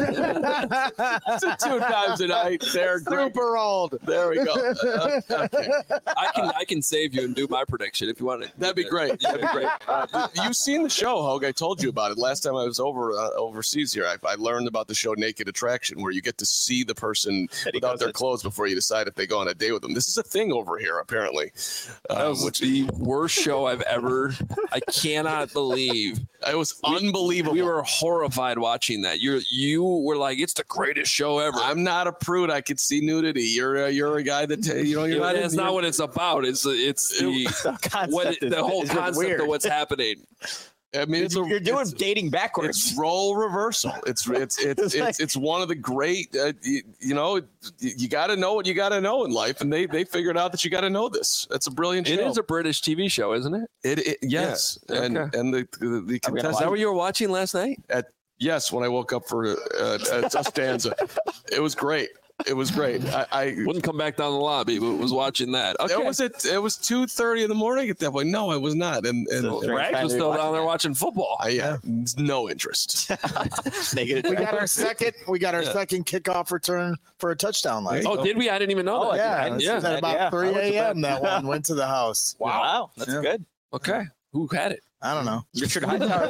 2 times a night. They're Super old. There we go. Okay. I can save you and do my prediction if you want to. That'd be great. That'd be great. You've seen the show, Hogue. I told you about it last time I was overseas here. I learned about the show Naked Attraction, where you get to see the person without their clothes before you decide if they go on a date with them. This is a thing over here, apparently. That was the worst show I've ever. I cannot believe. It was unbelievable. We were horrified watching that. You were like, it's the greatest show ever. I'm not a prude. I could see nudity. You're a guy that you're not. It's not what it's about. It's the whole concept of what's happening. I mean, you're doing dating backwards. It's role reversal. It's one of the great. You got to know what you got to know in life, and they figured out that you got to know this. That's a brilliant show. It is a British TV show, isn't it? Yes, yeah. and the contestant. Is that what you were watching last night? Yes, when I woke up for a stanza, it was great. It was great. I wouldn't come back down the lobby, but was watching that. Okay. It was 2:30 in the morning at that point. No, I was not. And Rags was still down there watching football. No interest. We got our second kickoff return for a touchdown last. Oh, did we? I didn't even know that. Yeah. At about 3 a.m. that one went to the house. Wow. That's good. Okay. Who had it? I don't know. Richard Hightower.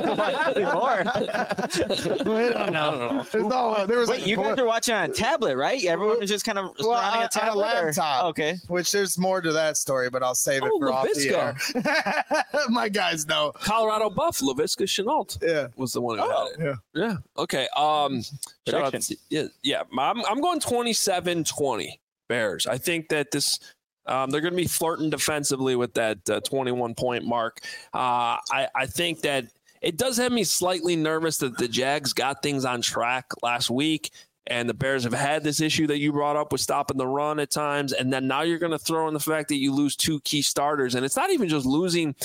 I don't know. Wait, you guys are watching on a tablet, right? Everyone is just kind of surrounding a tablet? On a laptop. Okay. Which there's more to that story, but I'll save it for off the air. My guys know. Colorado Buff, Laviska Shenault was the one who had it. Yeah. Okay. Shout out to, I'm going 27-20 Bears. I think that this – they're going to be flirting defensively with that 21-point mark. I think that it does have me slightly nervous that the Jags got things on track last week, and the Bears have had this issue that you brought up with stopping the run at times, and then now you're going to throw in the fact that you lose 2 key starters, and it's not even just losing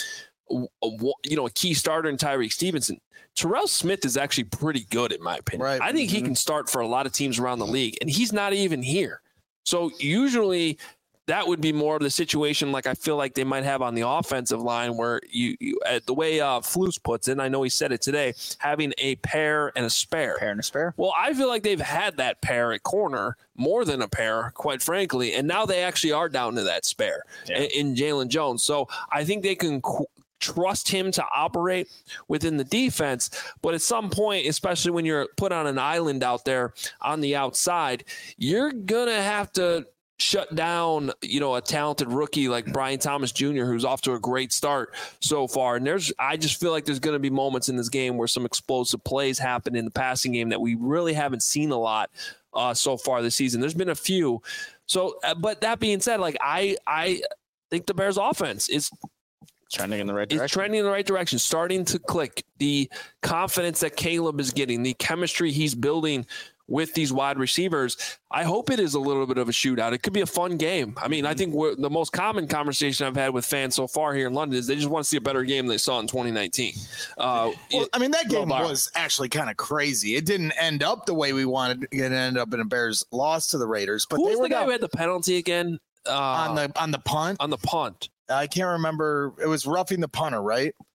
a key starter in Tyreek Stevenson. Terrell Smith is actually pretty good, in my opinion. Right. I think he can start for a lot of teams around the league, and he's not even here. So usually – that would be more of the situation like I feel like they might have on the offensive line where you the way Flus puts it, and I know he said it today, having a pair and a spare. Well, I feel like they've had that pair at corner, more than a pair, quite frankly, and now they actually are down to that spare in Jalen Jones. So I think they can trust him to operate within the defense, but at some point, especially when you're put on an island out there on the outside, you're going to have to shut down, a talented rookie like Brian Thomas Jr., who's off to a great start so far. And I just feel like there's going to be moments in this game where some explosive plays happen in the passing game that we really haven't seen a lot so far this season. There's been a few. So, but that being said, like I think the Bears offense is trending in the right direction. It's trending in the right direction, starting to click. The confidence that Caleb is getting, the chemistry he's building with these wide receivers, I hope it is a little bit of a shootout. It could be a fun game. I mean, I think the most common conversation I've had with fans so far here in London is they just want to see a better game than they saw in 2019. That game was actually kind of crazy. It didn't end up the way we wanted. It ended up in a Bears loss to the Raiders. But who was the guy who had the penalty again? On the punt? On the punt. I can't remember. It was roughing the punter, right?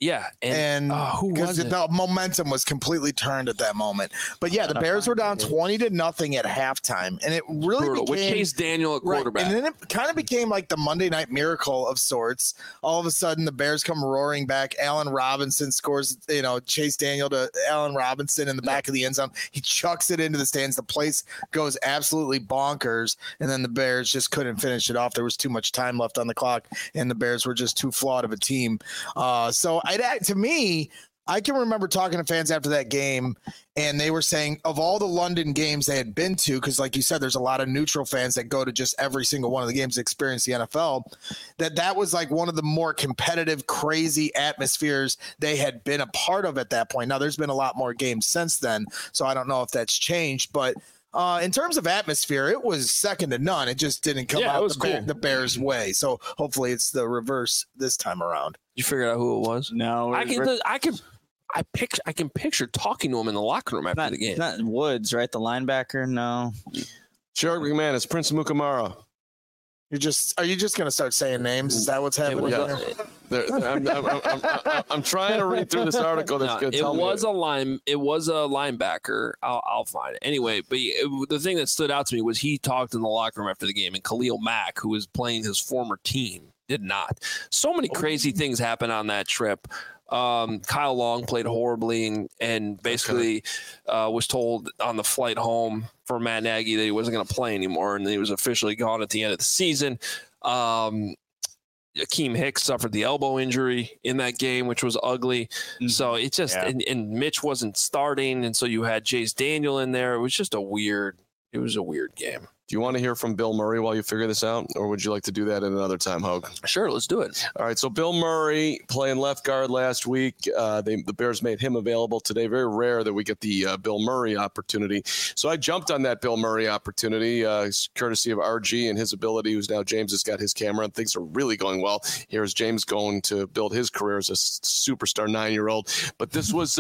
Yeah, and who was it? The momentum was completely turned at that moment. But yeah, the Bears were down 20-0 at halftime, and it really became with Chase Daniel at quarterback. Right. And then it kind of became like the Monday Night Miracle of sorts. All of a sudden, the Bears come roaring back. Allen Robinson scores, Chase Daniel to Allen Robinson in the back of the end zone. He chucks it into the stands. The place goes absolutely bonkers, and then the Bears just couldn't finish it off. There was too much time left on the clock, and the Bears were just too flawed of a team. To me, I can remember talking to fans after that game, and they were saying of all the London games they had been to, because like you said, there's a lot of neutral fans that go to just every single one of the games to experience the NFL, that was like one of the more competitive, crazy atmospheres they had been a part of at that point. Now, there's been a lot more games since then, so I don't know if that's changed, but in terms of atmosphere, it was second to none. It just didn't come out the Bears' way. So hopefully it's the reverse this time around. You figured out who it was? No, I can picture talking to him in the locker room after the game. Not Woods, right? The linebacker? No. Shark McManus, Prince Mukamara. Are you just going to start saying names? Is that what's happening? I'm trying to read through this article. That's good. It was a linebacker. I'll find it anyway. But the thing that stood out to me was he talked in the locker room after the game, and Khalil Mack, who was playing his former team, did not. So many crazy things happened on that trip. Kyle Long played horribly and basically was told on the flight home for Matt Nagy that he wasn't going to play anymore, and he was officially gone at the end of the season. Akeem Hicks suffered the elbow injury in that game, which was ugly. Mm-hmm. So it just and Mitch wasn't starting, and so you had Chase Daniel in there. It was a weird game. Do you want to hear from Bill Murray while you figure this out, or would you like to do that at another time, Hogue? Sure, let's do it. All right, so Bill Murray playing left guard last week. The Bears made him available today. Very rare that we get the Bill Murray opportunity. So I jumped on that Bill Murray opportunity, courtesy of RG and his ability, who's now James has got his camera, and things are really going well. Here's James going to build his career as a superstar 9-year-old. But this was...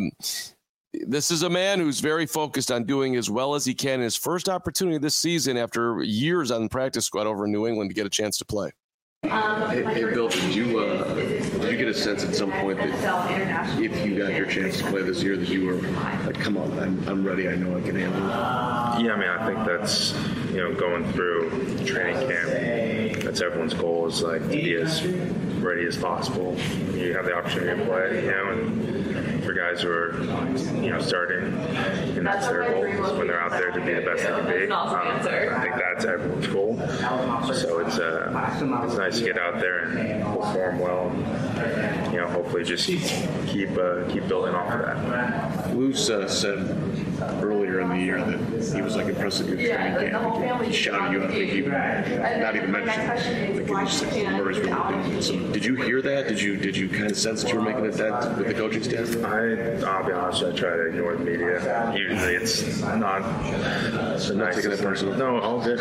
This is a man who's very focused on doing as well as he can in his first opportunity this season after years on the practice squad over in New England to get a chance to play. Hey Bill, did you get a sense at some point that if you got your chance to play this year that you were like, come on, I'm ready, I know I can handle it? Yeah, I mean, I think that's, going through training camp, that's everyone's goal is like to be as ready as possible. You have the opportunity to play, and for guys who are, starting, and that's their goal is when they're out there to be the best they can be. I think that's everyone's goal. So it's nice to get out there and perform well. And, hopefully just keep building off of that. Luz said earlier in the year that he was like impressed with your training camp. He shouted you out. I think he not even mentioned. Like he just said, Murray's really good. So did you hear that? Did you kind of sense that you were making that with the coaching staff? I'll be honest, I try to ignore the media. Usually it's not so not taking it personal. No, all good.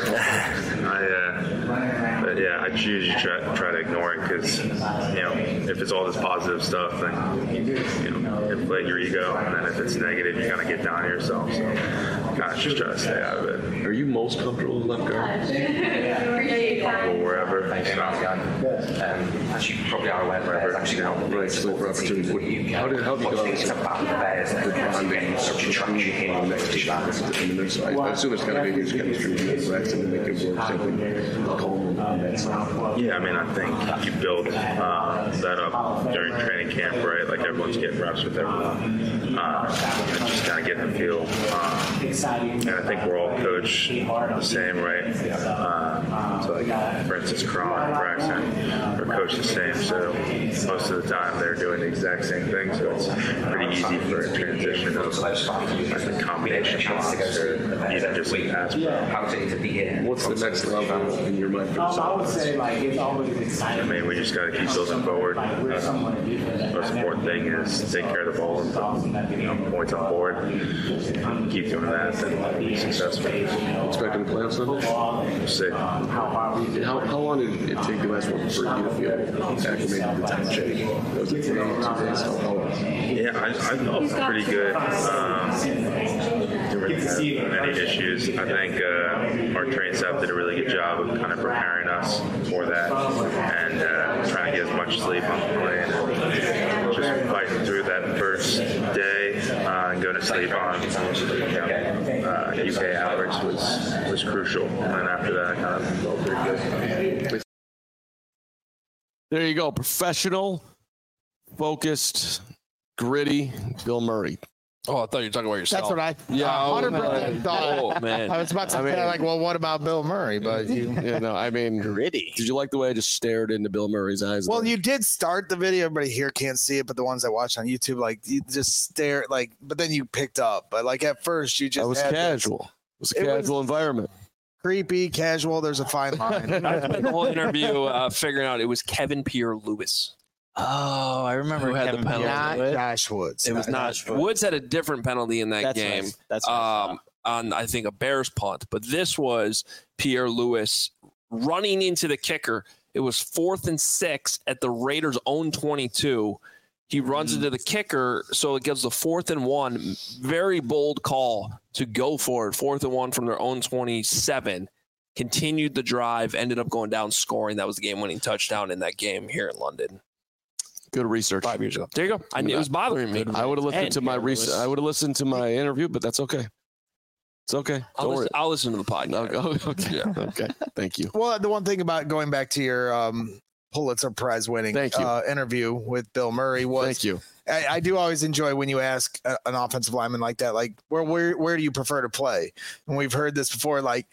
But yeah, I usually try to ignore it because, if it's all this positive stuff, then, inflate your ego. And then if it's negative, you kind of get down on yourself. So kind of just try to stay out of it. Are you most comfortable with left guard? Or wherever. As you probably are aware, there's actually right, so for opportunity. How have you gone with the bonding between the next team? I assume there's got to be a huge chemistry with Rex and make it work. Yeah, I mean, I think you build that up during training camp, right? Like everyone's getting reps with everyone, and just kind of getting the feel. And I think we're all coached the same, right? So, like, for instance, Cron and Braxton are coached the same, so most of the time they're doing the exact same thing, so it's pretty easy for a transition of like the combination blocks or even just a pass pro. What's the next level in your mind for I would say, like, it's always exciting. I mean, we just got to keep building forward. Most important thing is take care of the ball and put points on board. Keep doing that and be successful. Expecting the playoffs Sunday? We'll see. How long did it take the last one for you to feel acclimated to the time change? Was it 2 days? How long? Yeah, I felt pretty good. Didn't have many issues. I think our training staff did a really good job of kind of preparing us for that and trying to get as much sleep on the plane and fighting through that first day and going to sleep on UK hours was crucial. And after that, I kind of felt pretty good. There you go. Professional, focused, gritty Bill Murray. Oh, I thought you were talking about yourself. That's what I 100% thought. Oh, man. I was about to say, like, well, what about Bill Murray? But I mean, gritty. Did you like the way I just stared into Bill Murray's eyes? Well, you did start the video. Everybody here can't see it, but the ones that watch on YouTube, like, you just stare, like, but then you picked up. But like at first, you just I was casual. It was a casual environment. Creepy, casual. There's a fine line. I spent the whole interview figuring out it was Kevin Pierre-Louis. Oh, I remember who had the penalty. Not Josh Woods. It was not. Woods had a different penalty in that game. That's right. On I think a Bears punt, but this was Pierre-Louis running into the kicker. It was 4th and 6 at the Raiders' own 22. He runs into the kicker, so it gives the 4th and 1. Very bold call to go for it. 4th and 1 from their own 27. Continued the drive, ended up going down, scoring. That was the game-winning touchdown in that game here in London. Good research. 5 years ago. There you go. It was bothering me. I would have listened to my research. I would have listened to my interview, but that's okay. It's okay. I'll listen to the podcast. Okay. Yeah. Okay. Thank you. Well, the one thing about going back to your Pulitzer Prize winning interview with Bill Murray was thank you. I do always enjoy when you ask an offensive lineman like that, like, where do you prefer to play? And we've heard this before, like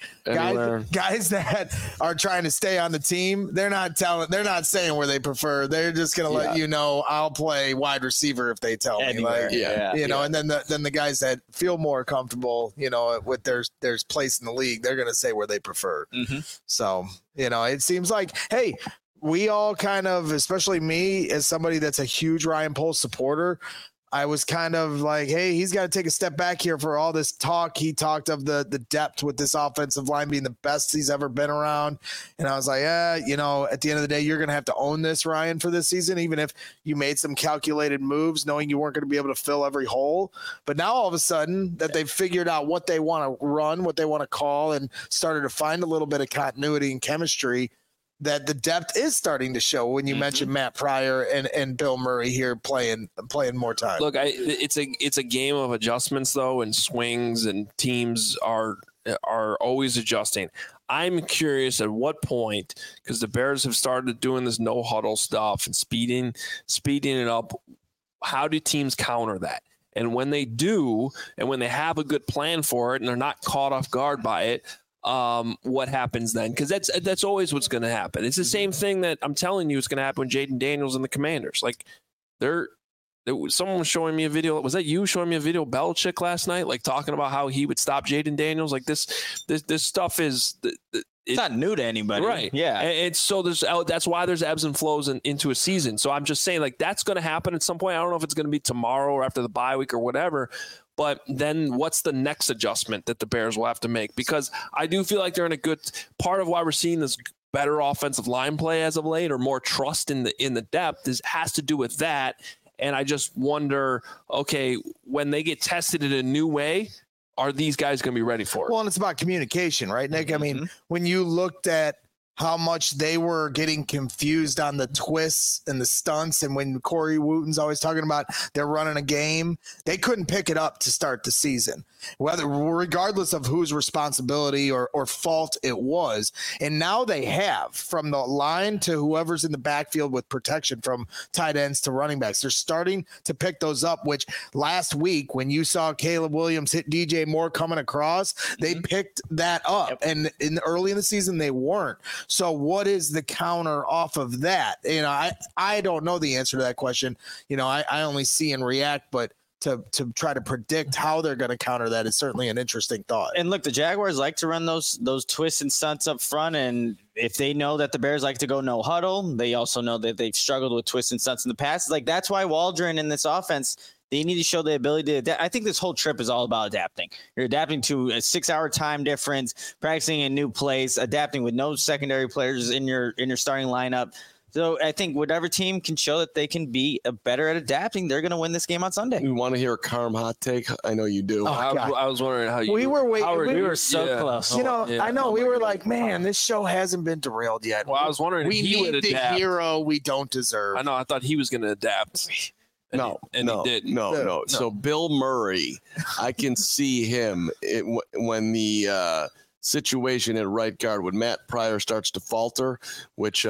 guys that are trying to stay on the team, they're not saying where they prefer. They're just going to let you know, I'll play wide receiver if they tell me. Like, and then the guys that feel more comfortable, with their place in the league, they're going to say where they prefer. Mm-hmm. So, it seems like, hey, we all kind of, especially me as somebody that's a huge Ryan Poles supporter, I was kind of like, hey, he's got to take a step back here for all this talk. He talked of the depth with this offensive line being the best he's ever been around. And I was like, at the end of the day, you're going to have to own this, Ryan, for this season, even if you made some calculated moves, knowing you weren't going to be able to fill every hole. But now all of a sudden that they've figured out what they want to run, what they want to call, and started to find a little bit of continuity and chemistry, that the depth is starting to show when you mentioned Matt Pryor and Bill Murray here playing more time. Look, it's a game of adjustments though, and swings, and teams are always adjusting. I'm curious at what point, because the Bears have started doing this no huddle stuff and speeding it up. How do teams counter that? And when they do, and when they have a good plan for it, and they're not caught off guard by it, what happens then? Because that's always what's going to happen. It's the same thing that I'm telling you is going to happen with Jaden Daniels and the Commanders. Like, someone was showing me a video. Was that you showing me a video of Belichick last night? Like, talking about how he would stop Jaden Daniels. Like, this stuff is it's not new to anybody, right? Yeah, and so that's why there's ebbs and flows into a season. So I'm just saying, like, that's going to happen at some point. I don't know if it's going to be tomorrow or after the bye week or whatever. But then what's the next adjustment that the Bears will have to make? Because I do feel like they're in a good part of why we're seeing this better offensive line play as of late, or more trust in the depth, has to do with that. And I just wonder, okay, when they get tested in a new way, are these guys going to be ready for it? Well, and it's about communication, right, Nick? I mean, when you looked at how much they were getting confused on the twists and the stunts, and when Corey Wooten's always talking about they're running a game, they couldn't pick it up to start the season, regardless of whose responsibility or fault it was. And now they have, from the line to whoever's in the backfield with protection from tight ends to running backs. They're starting to pick those up, which last week when you saw Caleb Williams hit DJ Moore coming across, they picked that up. And early in the season, they weren't. So what is the counter off of that? I don't know the answer to that question. I only see and react, but to try to predict how they're going to counter that is certainly an interesting thought. And look, the Jaguars like to run those twists and stunts up front. And if they know that the Bears like to go no huddle, they also know that they've struggled with twists and stunts in the past. Like, that's why Waldron in this offense, they need to show the ability to adapt. I think this whole trip is all about adapting. You're adapting to a 6-hour time difference, practicing in new place, adapting with no secondary players in your starting lineup. So I think whatever team can show that they can be better at adapting, they're going to win this game on Sunday. You want to hear a Carm hot take? I know you do. I was wondering how you. We were waiting. We were so close. I know. We were like, man, this show hasn't been derailed yet. Well, I was wondering if he would adapt. We need the hero we don't deserve. I know. I thought he was going to adapt. No. He did. No. So Bill Murray, I can see him when the situation at right guard, when Matt Pryor starts to falter, which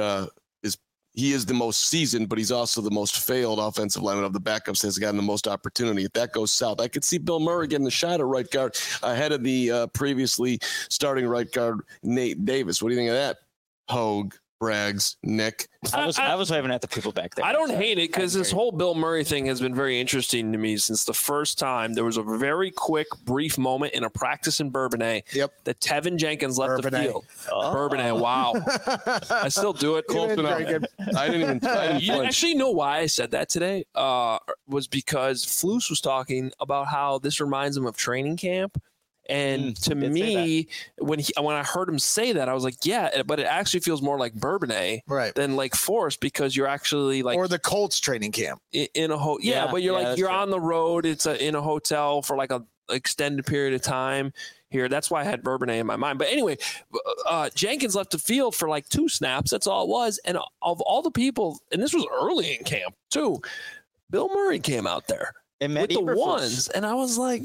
he is the most seasoned, but he's also the most failed offensive lineman of the backups, has gotten the most opportunity. If that goes south, I could see Bill Murray getting the shot at right guard ahead of the previously starting right guard, Nate Davis. What do you think of that? Hogue, Braggs, Nick. I was waving at the people back there. I don't hate it because this whole Bill Murray thing has been very interesting to me since the first time. There was a very quick, brief moment in a practice in Bourbonnais that Tevin Jenkins left the field. Bourbonnais, wow. I still do it. Close enough. I didn't You actually know why I said that today? Was because Flus was talking about how this reminds him of training camp. And to me, when I heard him say that, I was like, yeah, but it actually feels more like Bourbonnais than like Forest, because you're actually like, or the Colts training camp in a but you're on the road. It's in a hotel for like a extended period of time here. That's why I had Bourbonnais in my mind. But anyway, Jenkins left the field for like 2 snaps. That's all it was. And of all the people, and this was early in camp too, Bill Murray came out there with the ones, and I was like,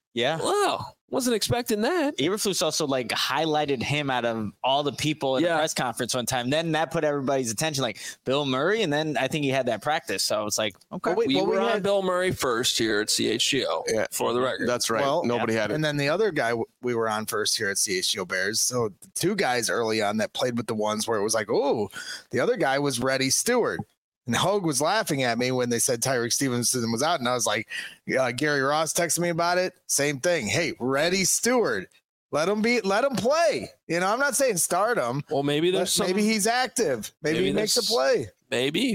wow. Wasn't expecting that. Eberflus also like highlighted him out of all the people in the press conference one time. Then that put everybody's attention, like Bill Murray, and then I think he had that practice. So it's like, okay, we were on Bill Murray first here at CHGO for the record. That's right. Well, nobody had it. And then the other guy we were on first here at CHGO Bears. So the 2 guys early on that played with the ones where it was like, oh, the other guy was Reddy Stewart. And Hogue was laughing at me when they said Tyreek Stevenson was out. And I was like, Gary Ross texted me about it. Same thing. Hey, Reddy Stewart, let him play. You know, I'm not saying start him. Well, maybe maybe he's active. Maybe he makes a play. Maybe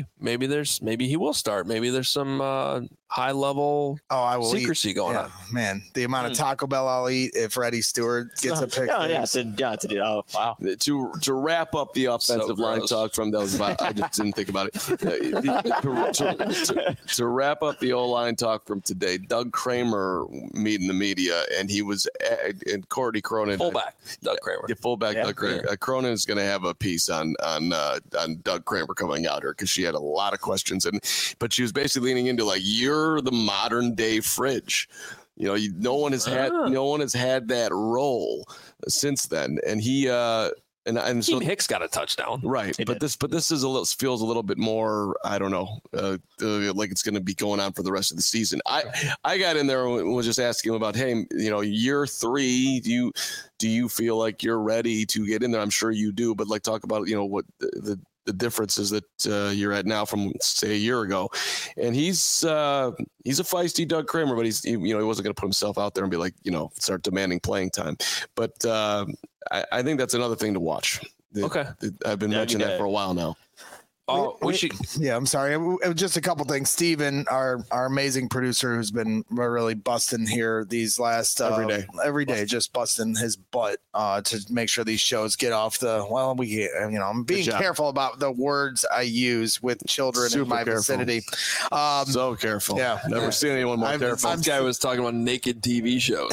he will start. Maybe there's some high level secrecy going on. Man, the amount of Taco Bell I'll eat if Reddy Stewart gets a pick. Wow. To wrap up the offensive line talk from those, I just didn't think about it. To wrap up the O-line talk from today, Doug Kramer meeting the media, and he was and Cordy Cronin, fullback Doug Kramer. Doug Kramer. Cronin is going to have a piece on Doug Kramer coming out here because she had a lot of questions, but she was basically leaning into like, you're the modern day Fridge. You know, no one has had that role since then, and he and so Hicks got a touchdown, right? But this feels a little bit more, I don't know, like it's going to be going on for the rest of the season. I got in there and was just asking him about, hey, you know, year 3, do you feel like you're ready to get in there? I'm sure you do, but like talk about, you know, what the differences that you're at now from say a year ago. And he's a feisty Doug Kramer, but he wasn't going to put himself out there and be like, you know, start demanding playing time. But I think that's another thing to watch. I've been mentioning that for a while now. I'm sorry. It was just a couple things. Steven, our amazing producer, who's been really busting here these last every day, just busting his butt to make sure these shows get off the. Well, I'm being careful about the words I use with children in my vicinity. So careful. Yeah, never seen anyone more careful. This guy was talking about naked TV shows.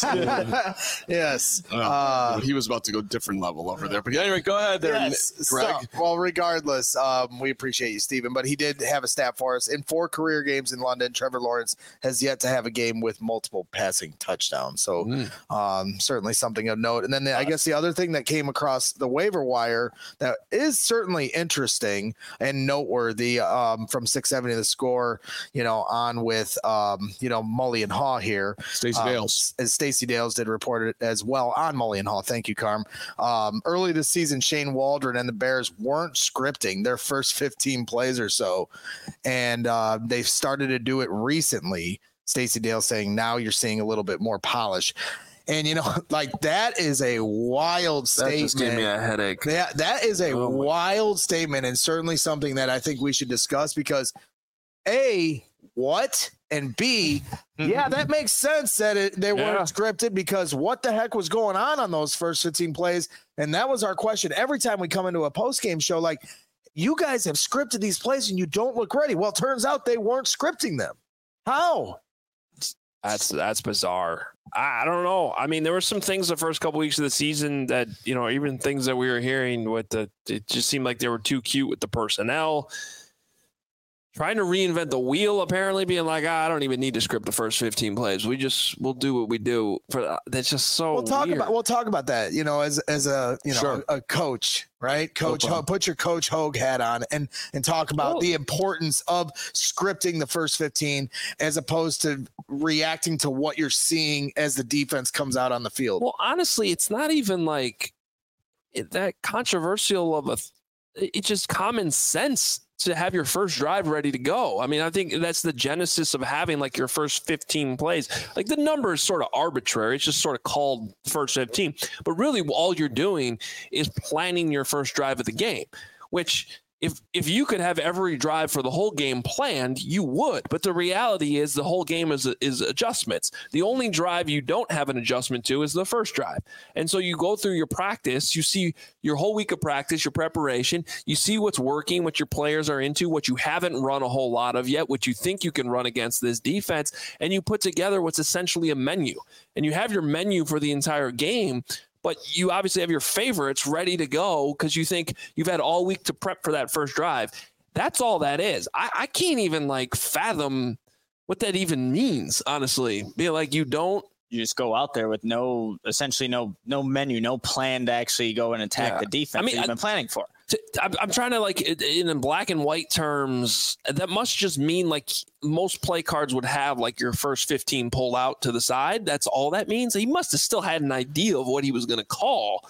Yes. He was about to go different level over there. But anyway, go ahead there, Greg. Well, regardless. We appreciate you, Stephen, but he did have a stat for us. In 4 career games in London, Trevor Lawrence has yet to have a game with multiple passing touchdowns. So certainly something of note. And then I guess the other thing that came across the waiver wire that is certainly interesting and noteworthy from 670 The Score, you know, on with, Mully and Haw here. Stacey Dales. As Stacey Dales did report it as well on Mully and Haw. Thank you, Carm. Early this season, Shane Waldron and the Bears weren't scripting their first 15 plays or so, and they've started to do it recently. Stacey Dale saying now you're seeing a little bit more polish, and you know, like that is a wild statement. That just gave me a headache. That is a wild statement, and certainly something that I think we should discuss because A, what, and B, yeah, that makes sense that they weren't scripted because what the heck was going on those first 15 plays, and that was our question every time we come into a post-game show, like, you guys have scripted these plays and you don't look ready. Well, it turns out they weren't scripting them. How? That's bizarre. I don't know. I mean, there were some things the first couple weeks of the season that, you know, even things that we were hearing with it just seemed like they were too cute with the personnel. trying to reinvent the wheel, apparently being like, I don't even need to script the first 15 plays. We'll do what we do. That's just so we'll talk about that, as a, Sure. a coach, right? Coach, put your Coach Hogue hat on and talk about the importance of scripting the first 15 as opposed to reacting to what you're seeing as the defense comes out on the field. Well, honestly, it's not even like that controversial it's just common sense to have your first drive ready to go. I mean, I think that's the genesis of having like your first 15 plays. Like the number is sort of arbitrary. It's just sort of called first 15. But really all you're doing is planning your first drive of the game, which if you could have every drive for the whole game planned, you would. But the reality is the whole game is adjustments. The only drive you don't have an adjustment to is the first drive. And so you go through your practice, you see your whole week of practice, your preparation, you see what's working, what your players are into, what you haven't run a whole lot of yet, what you think you can run against this defense, and you put together what's essentially a menu. And you have your menu for the entire game, but you obviously have your favorites ready to go because you think you've had all week to prep for that first drive. That's all that is. I can't even fathom what that even means, honestly. Be like, you just go out there with essentially no menu, no plan to actually go and attack the defense that you've been planning for. I'm trying to in black and white terms, that must just mean most play cards would have your first 15 pulled out to the side. That's all that means. He must have still had an idea of what he was going to call.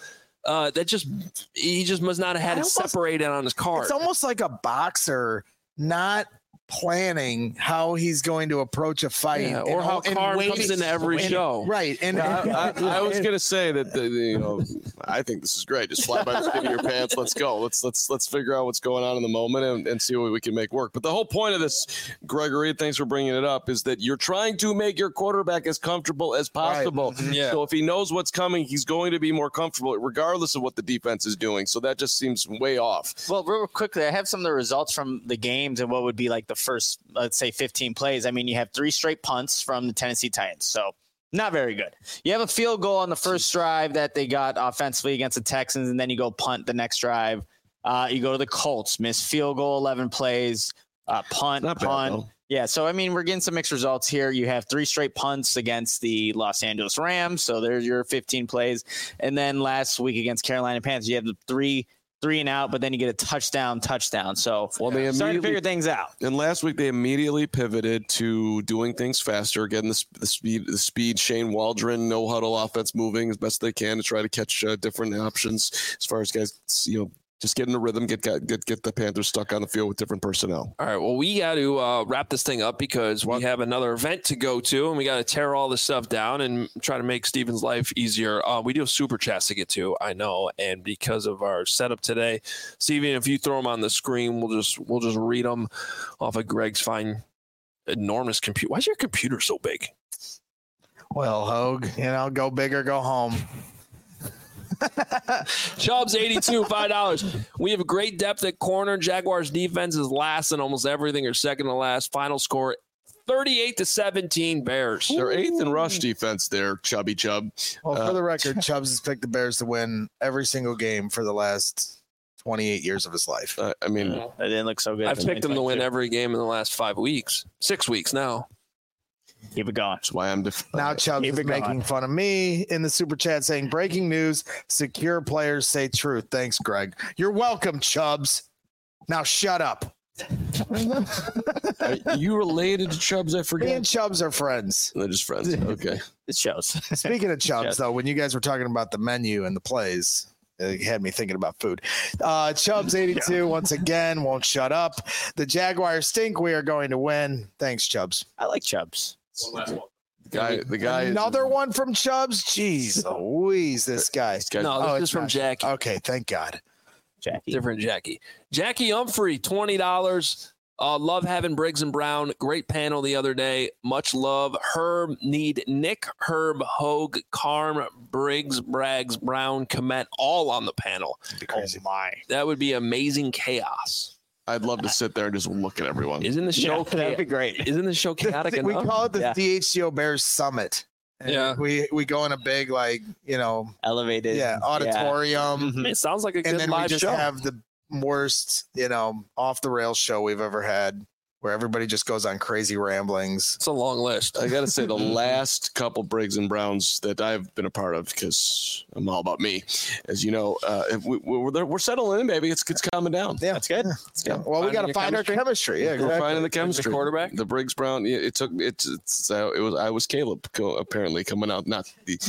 He just must not have had it separated on his card. It's almost like a boxer not planning how he's going to approach a fight, or how Carm comes into every show, right? And I was going to say that I think this is great. Just fly by the skin of your pants. Let's go. Let's figure out what's going on in the moment and see what we can make work. But the whole point of this, Gregory, thanks for bringing it up, is that you're trying to make your quarterback as comfortable as possible. Right. Yeah. So if he knows what's coming, he's going to be more comfortable regardless of what the defense is doing. So that just seems way off. Well, real quickly, I have some of the results from the games and what would be the first, let's say, 15 plays. I mean, you have 3 straight punts from the Tennessee Titans, so not very good. You have a field goal on the first drive that they got offensively against the Texans, and then you go punt the next drive. You go to the Colts, miss field goal 11 plays, punt. Yeah, so I mean, we're getting some mixed results here. You have 3 straight punts against the Los Angeles Rams, so there's your 15 plays. And then last week against Carolina Panthers, you have the 3 and out, but then you get a touchdown. So they starting to figure things out. And last week they immediately pivoted to doing things faster, getting the speed. Shane Waldron, no huddle offense moving as best they can to try to catch different options as far as guys, just get in the rhythm, get the Panthers stuck on the field with different personnel. All right, well, we got to wrap this thing up because we have another event to go to, and we got to tear all this stuff down and try to make Steven's life easier. We do have super chats to get to, I know, and because of our setup today, Steven, if you throw them on the screen, we'll just read them off of Greg's fine, enormous computer. Why is your computer so big? Well, Hogue, go big or go home. Chubbs 82, $5. We have great depth at corner. Jaguars defense is last in almost everything, or second to last. Final score 38-17 Bears. They're 8th in rush defense there, Chubby Chubb. Well, for the record, Chubbs has picked the Bears to win every single game for the last 28 years of his life. I mean, that didn't look so good. I've picked them to win every game in the last 6 weeks now. Keep it going. That's why I'm now Chubbs is making fun of me in the super chat saying, breaking news, secure players say truth. Thanks, Greg. You're welcome, Chubbs. Now shut up. Are you related to Chubbs? I forget. Me and Chubbs are friends. They're just friends. Okay. It shows. Speaking of Chubbs, though, when you guys were talking about the menu and the plays, it had me thinking about food. Chubbs 82 once again won't shut up. The Jaguars stink. We are going to win. Thanks, Chubbs. I like Chubbs. The guy. Another one from Chubbs. Jeez, Louise, this guy. No, this is from Jackie. Okay, thank God. Jackie. Different Jackie. Jackie Humphrey, $20. Love having Briggs and Brown. Great panel the other day. Much love. Herb, need Nick, Herb, Hogue, Carm, Briggs, Braggs, Brown, Komet, all on the panel. That'd be crazy. Oh my. That would be amazing chaos. I'd love to sit there and just look at everyone. Isn't the show that'd be great. Isn't the show chaotic enough? We call it the DHCO Bears Summit. And yeah. We go in a big, elevated auditorium. Mm-hmm. It sounds like a good and then live we just show. have the worst, off the rails show we've ever had. where everybody just goes on crazy ramblings. It's a long list. I got to say, the last couple Briggs and Browns that I've been a part of, because I'm all about me, as you know, we're settling in, baby. It's calming down. Yeah, That's good. Yeah. Well, we got to find our chemistry. Yeah, exactly. We're finding the chemistry. The quarterback, the Briggs Brown. It took it. I was Caleb apparently coming out, not the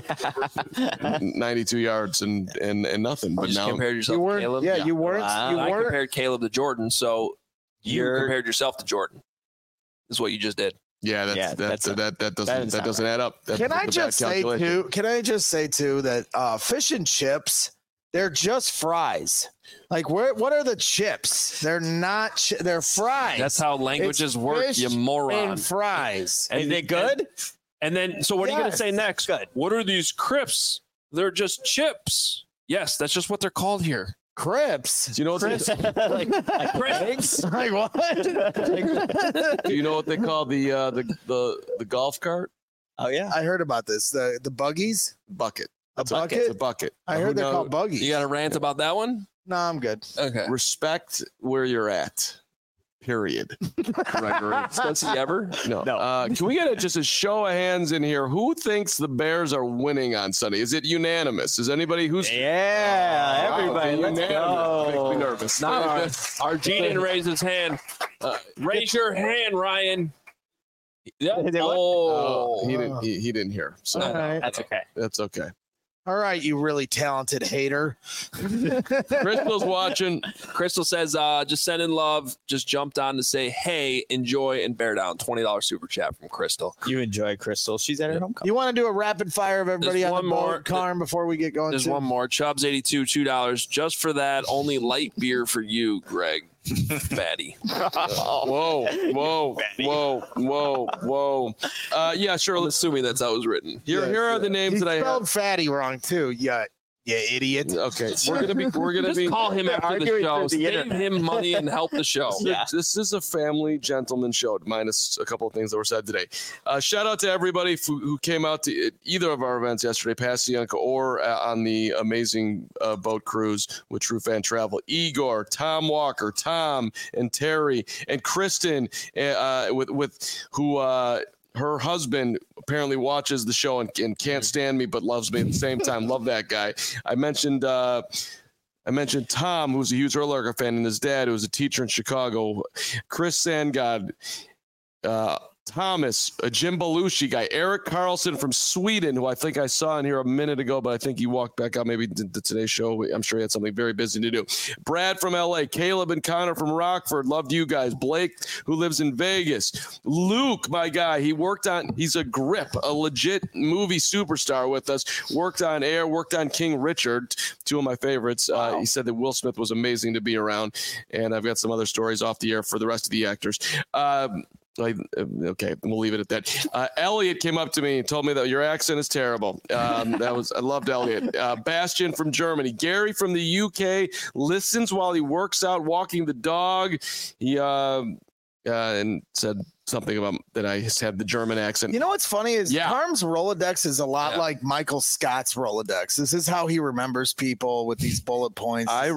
92 yards and nothing. But you just now compared yourself You weren't. to Caleb. Yeah, you weren't. Wow. You I weren't. compared Caleb to Jordan, so you compared yourself to Jordan. Is what you just did. Yeah, that doesn't add up. Can I just say too that fish and chips, they're just fries. Like what are the chips? They're not. They're fries. That's how languages work, fish you moron. And fries. And Is it good? And then, so what are you going to say next? Good. What are these crisps? They're just chips. Yes, that's just what they're called here. Crips. Do you know what like Crisps. Like what? do you know what they call the golf cart? Oh yeah. I heard about this. The buggies. Bucket. A bucket? It's a bucket. I heard they're called buggies. You got a rant about that one? No, I'm good. Okay. Respect where you're at. Period. Gregory. Does he ever? No. Can we get just a show of hands in here? Who thinks the Bears are winning on Sunday? Is it unanimous? Is anybody who's Yeah, everybody. Let's unanimous? go. Makes me nervous. Now, our G didn't raise his hand. Raise your hand, Ryan. Yeah. Oh, he didn't hear. So All right. That's okay. that's okay. All right, you really talented hater. Crystal's watching. Crystal says, just send in love. Just jumped on to say, hey, enjoy and bear down. $20 super chat from Crystal. You enjoy Crystal. She's at her homecoming. You want to do a rapid fire of everybody There's on the one more. board, Carm, before we get going? There's too? one more. Chubbs 82, $2. Just for that, only light beer for you, Greg. Fatty. Whoa. Yeah, sure. I'm assuming that's how it was written. Here are the names He that I have. spelled fatty wrong too. Yeah, idiot. Okay, we're gonna Just be. call him after the arguing show. through the Save internet. him money and help the show. Yeah. This is a family gentleman show, minus a couple of things that were said today. Shout out to everybody who came out to either of our events yesterday, Passyunk or on the amazing boat cruise with True Fan Travel. Igor, Tom Walker, Tom and Terry and Kristen, with who. Her husband apparently watches the show and can't stand me, but loves me at the same time. Love that guy. I mentioned Tom, who's a huge Earl Larger fan, and his dad, who was a teacher in Chicago. Chris Sandgod, Thomas, a Jim Belushi guy, Eric Carlson from Sweden, who I think I saw in here a minute ago, but I think he walked back out maybe to today's show. I'm sure he had something very busy to do. Brad from LA, Caleb and Connor from Rockford, loved you guys. Blake, who lives in Vegas. Luke, my guy, he's a grip, a legit movie superstar with us. Worked on Air, worked on King Richard, two of my favorites. He said that Will Smith was amazing to be around, and I've got some other stories off the air for the rest of the actors. Okay, we'll leave it at that. Elliot came up to me and told me that your accent is terrible. I loved Elliot. Bastian from Germany. Gary from the UK listens while he works out, walking the dog. He and said something about that I had the German accent. You know what's funny is Carm's Rolodex is a lot like Michael Scott's Rolodex. This is how he remembers people with these bullet points. I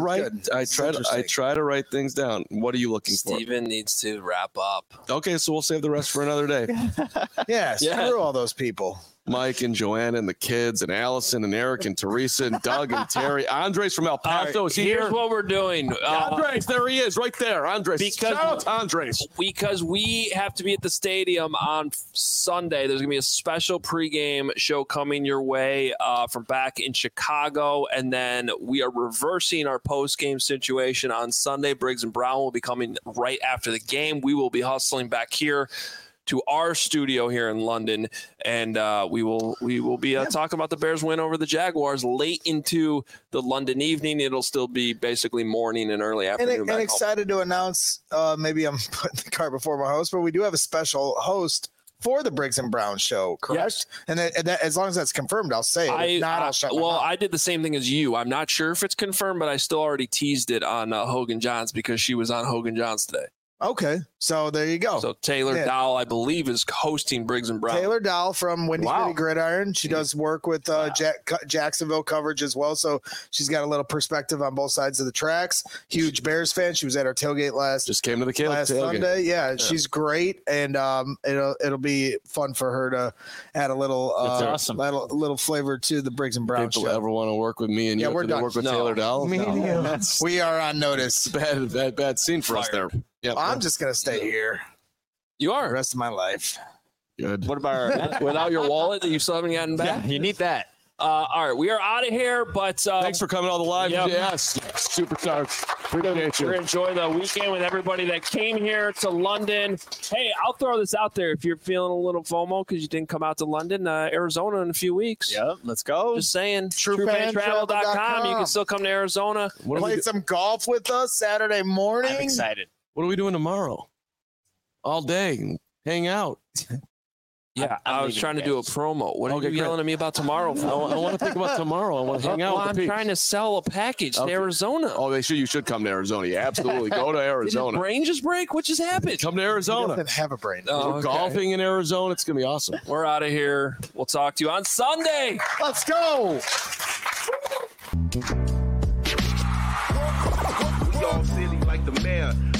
try to write things down. What are you looking for? Steven needs to wrap up. Okay, so we'll save the rest for another day. Screw all those people. Mike and Joanna and the kids and Allison and Eric and Teresa and Doug and Terry. Andres from El Paso. Is he Here's here? what we're doing. Andres, there he is, right there. Andres. Shout out to Andres. Because we have to be at the stadium on Sunday. There's going to be a special pregame show coming your way from back in Chicago. And then we are reversing our postgame situation on Sunday. Briggs and Brown will be coming right after the game. We will be hustling back here to our studio here in London, and we will be talking about the Bears win over the Jaguars late into the London evening. It'll still be basically morning and early afternoon. And excited to announce, maybe I'm putting the cart before my host, but we do have a special host for the Briggs and Brown show, correct? Yes. And that, as long as that's confirmed, I'll say it. If not, I'll shut my mouth. I did the same thing as you. I'm not sure if it's confirmed, but I still already teased it on Hogan Johns because she was on Hogan Johns today. Okay, so there you go. So Taylor Dowell, I believe, is hosting Briggs and Brown. Taylor Dowell from Windy City Gridiron. She does work with Jacksonville coverage as well, so she's got a little perspective on both sides of the tracks. Huge Bears fan. She was at our tailgate last Sunday. Yeah, she's great, and it'll be fun for her to add a little little flavor to the Briggs and Brown People show. ever want to work with me and you? We're done. Work with Taylor Dowell. We are on notice. Bad scene for us there. Yeah, I'm just gonna stay here. You are the rest of my life. Good. What about without your wallet that you still haven't gotten back? Yeah, you need that. All right, we are out of here, but thanks for coming on the live. Yep. Yes, superstars. Appreciate you. We're enjoying the weekend with everybody that came here to London. Hey, I'll throw this out there if you're feeling a little FOMO because you didn't come out to London, Arizona in a few weeks. Yep, let's go. Just saying, TrueFanTravel.com. You can still come to Arizona. Play some golf with us Saturday morning. I'm excited. What are we doing tomorrow? All day, hang out. Yeah, I was trying to do a promo. What are you yelling at me about tomorrow for? I want to think about tomorrow. I want to hang out with the I'm peeps. trying to sell a package to Arizona. Oh, you should come to Arizona. Yeah, absolutely. Go to Did Arizona. your brain just break? What just happened? Come to He Arizona. doesn't have a brain. We're golfing in Arizona. It's going to be awesome. We're out of here. We'll talk to you on Sunday. Let's go. We all silly like the mayor.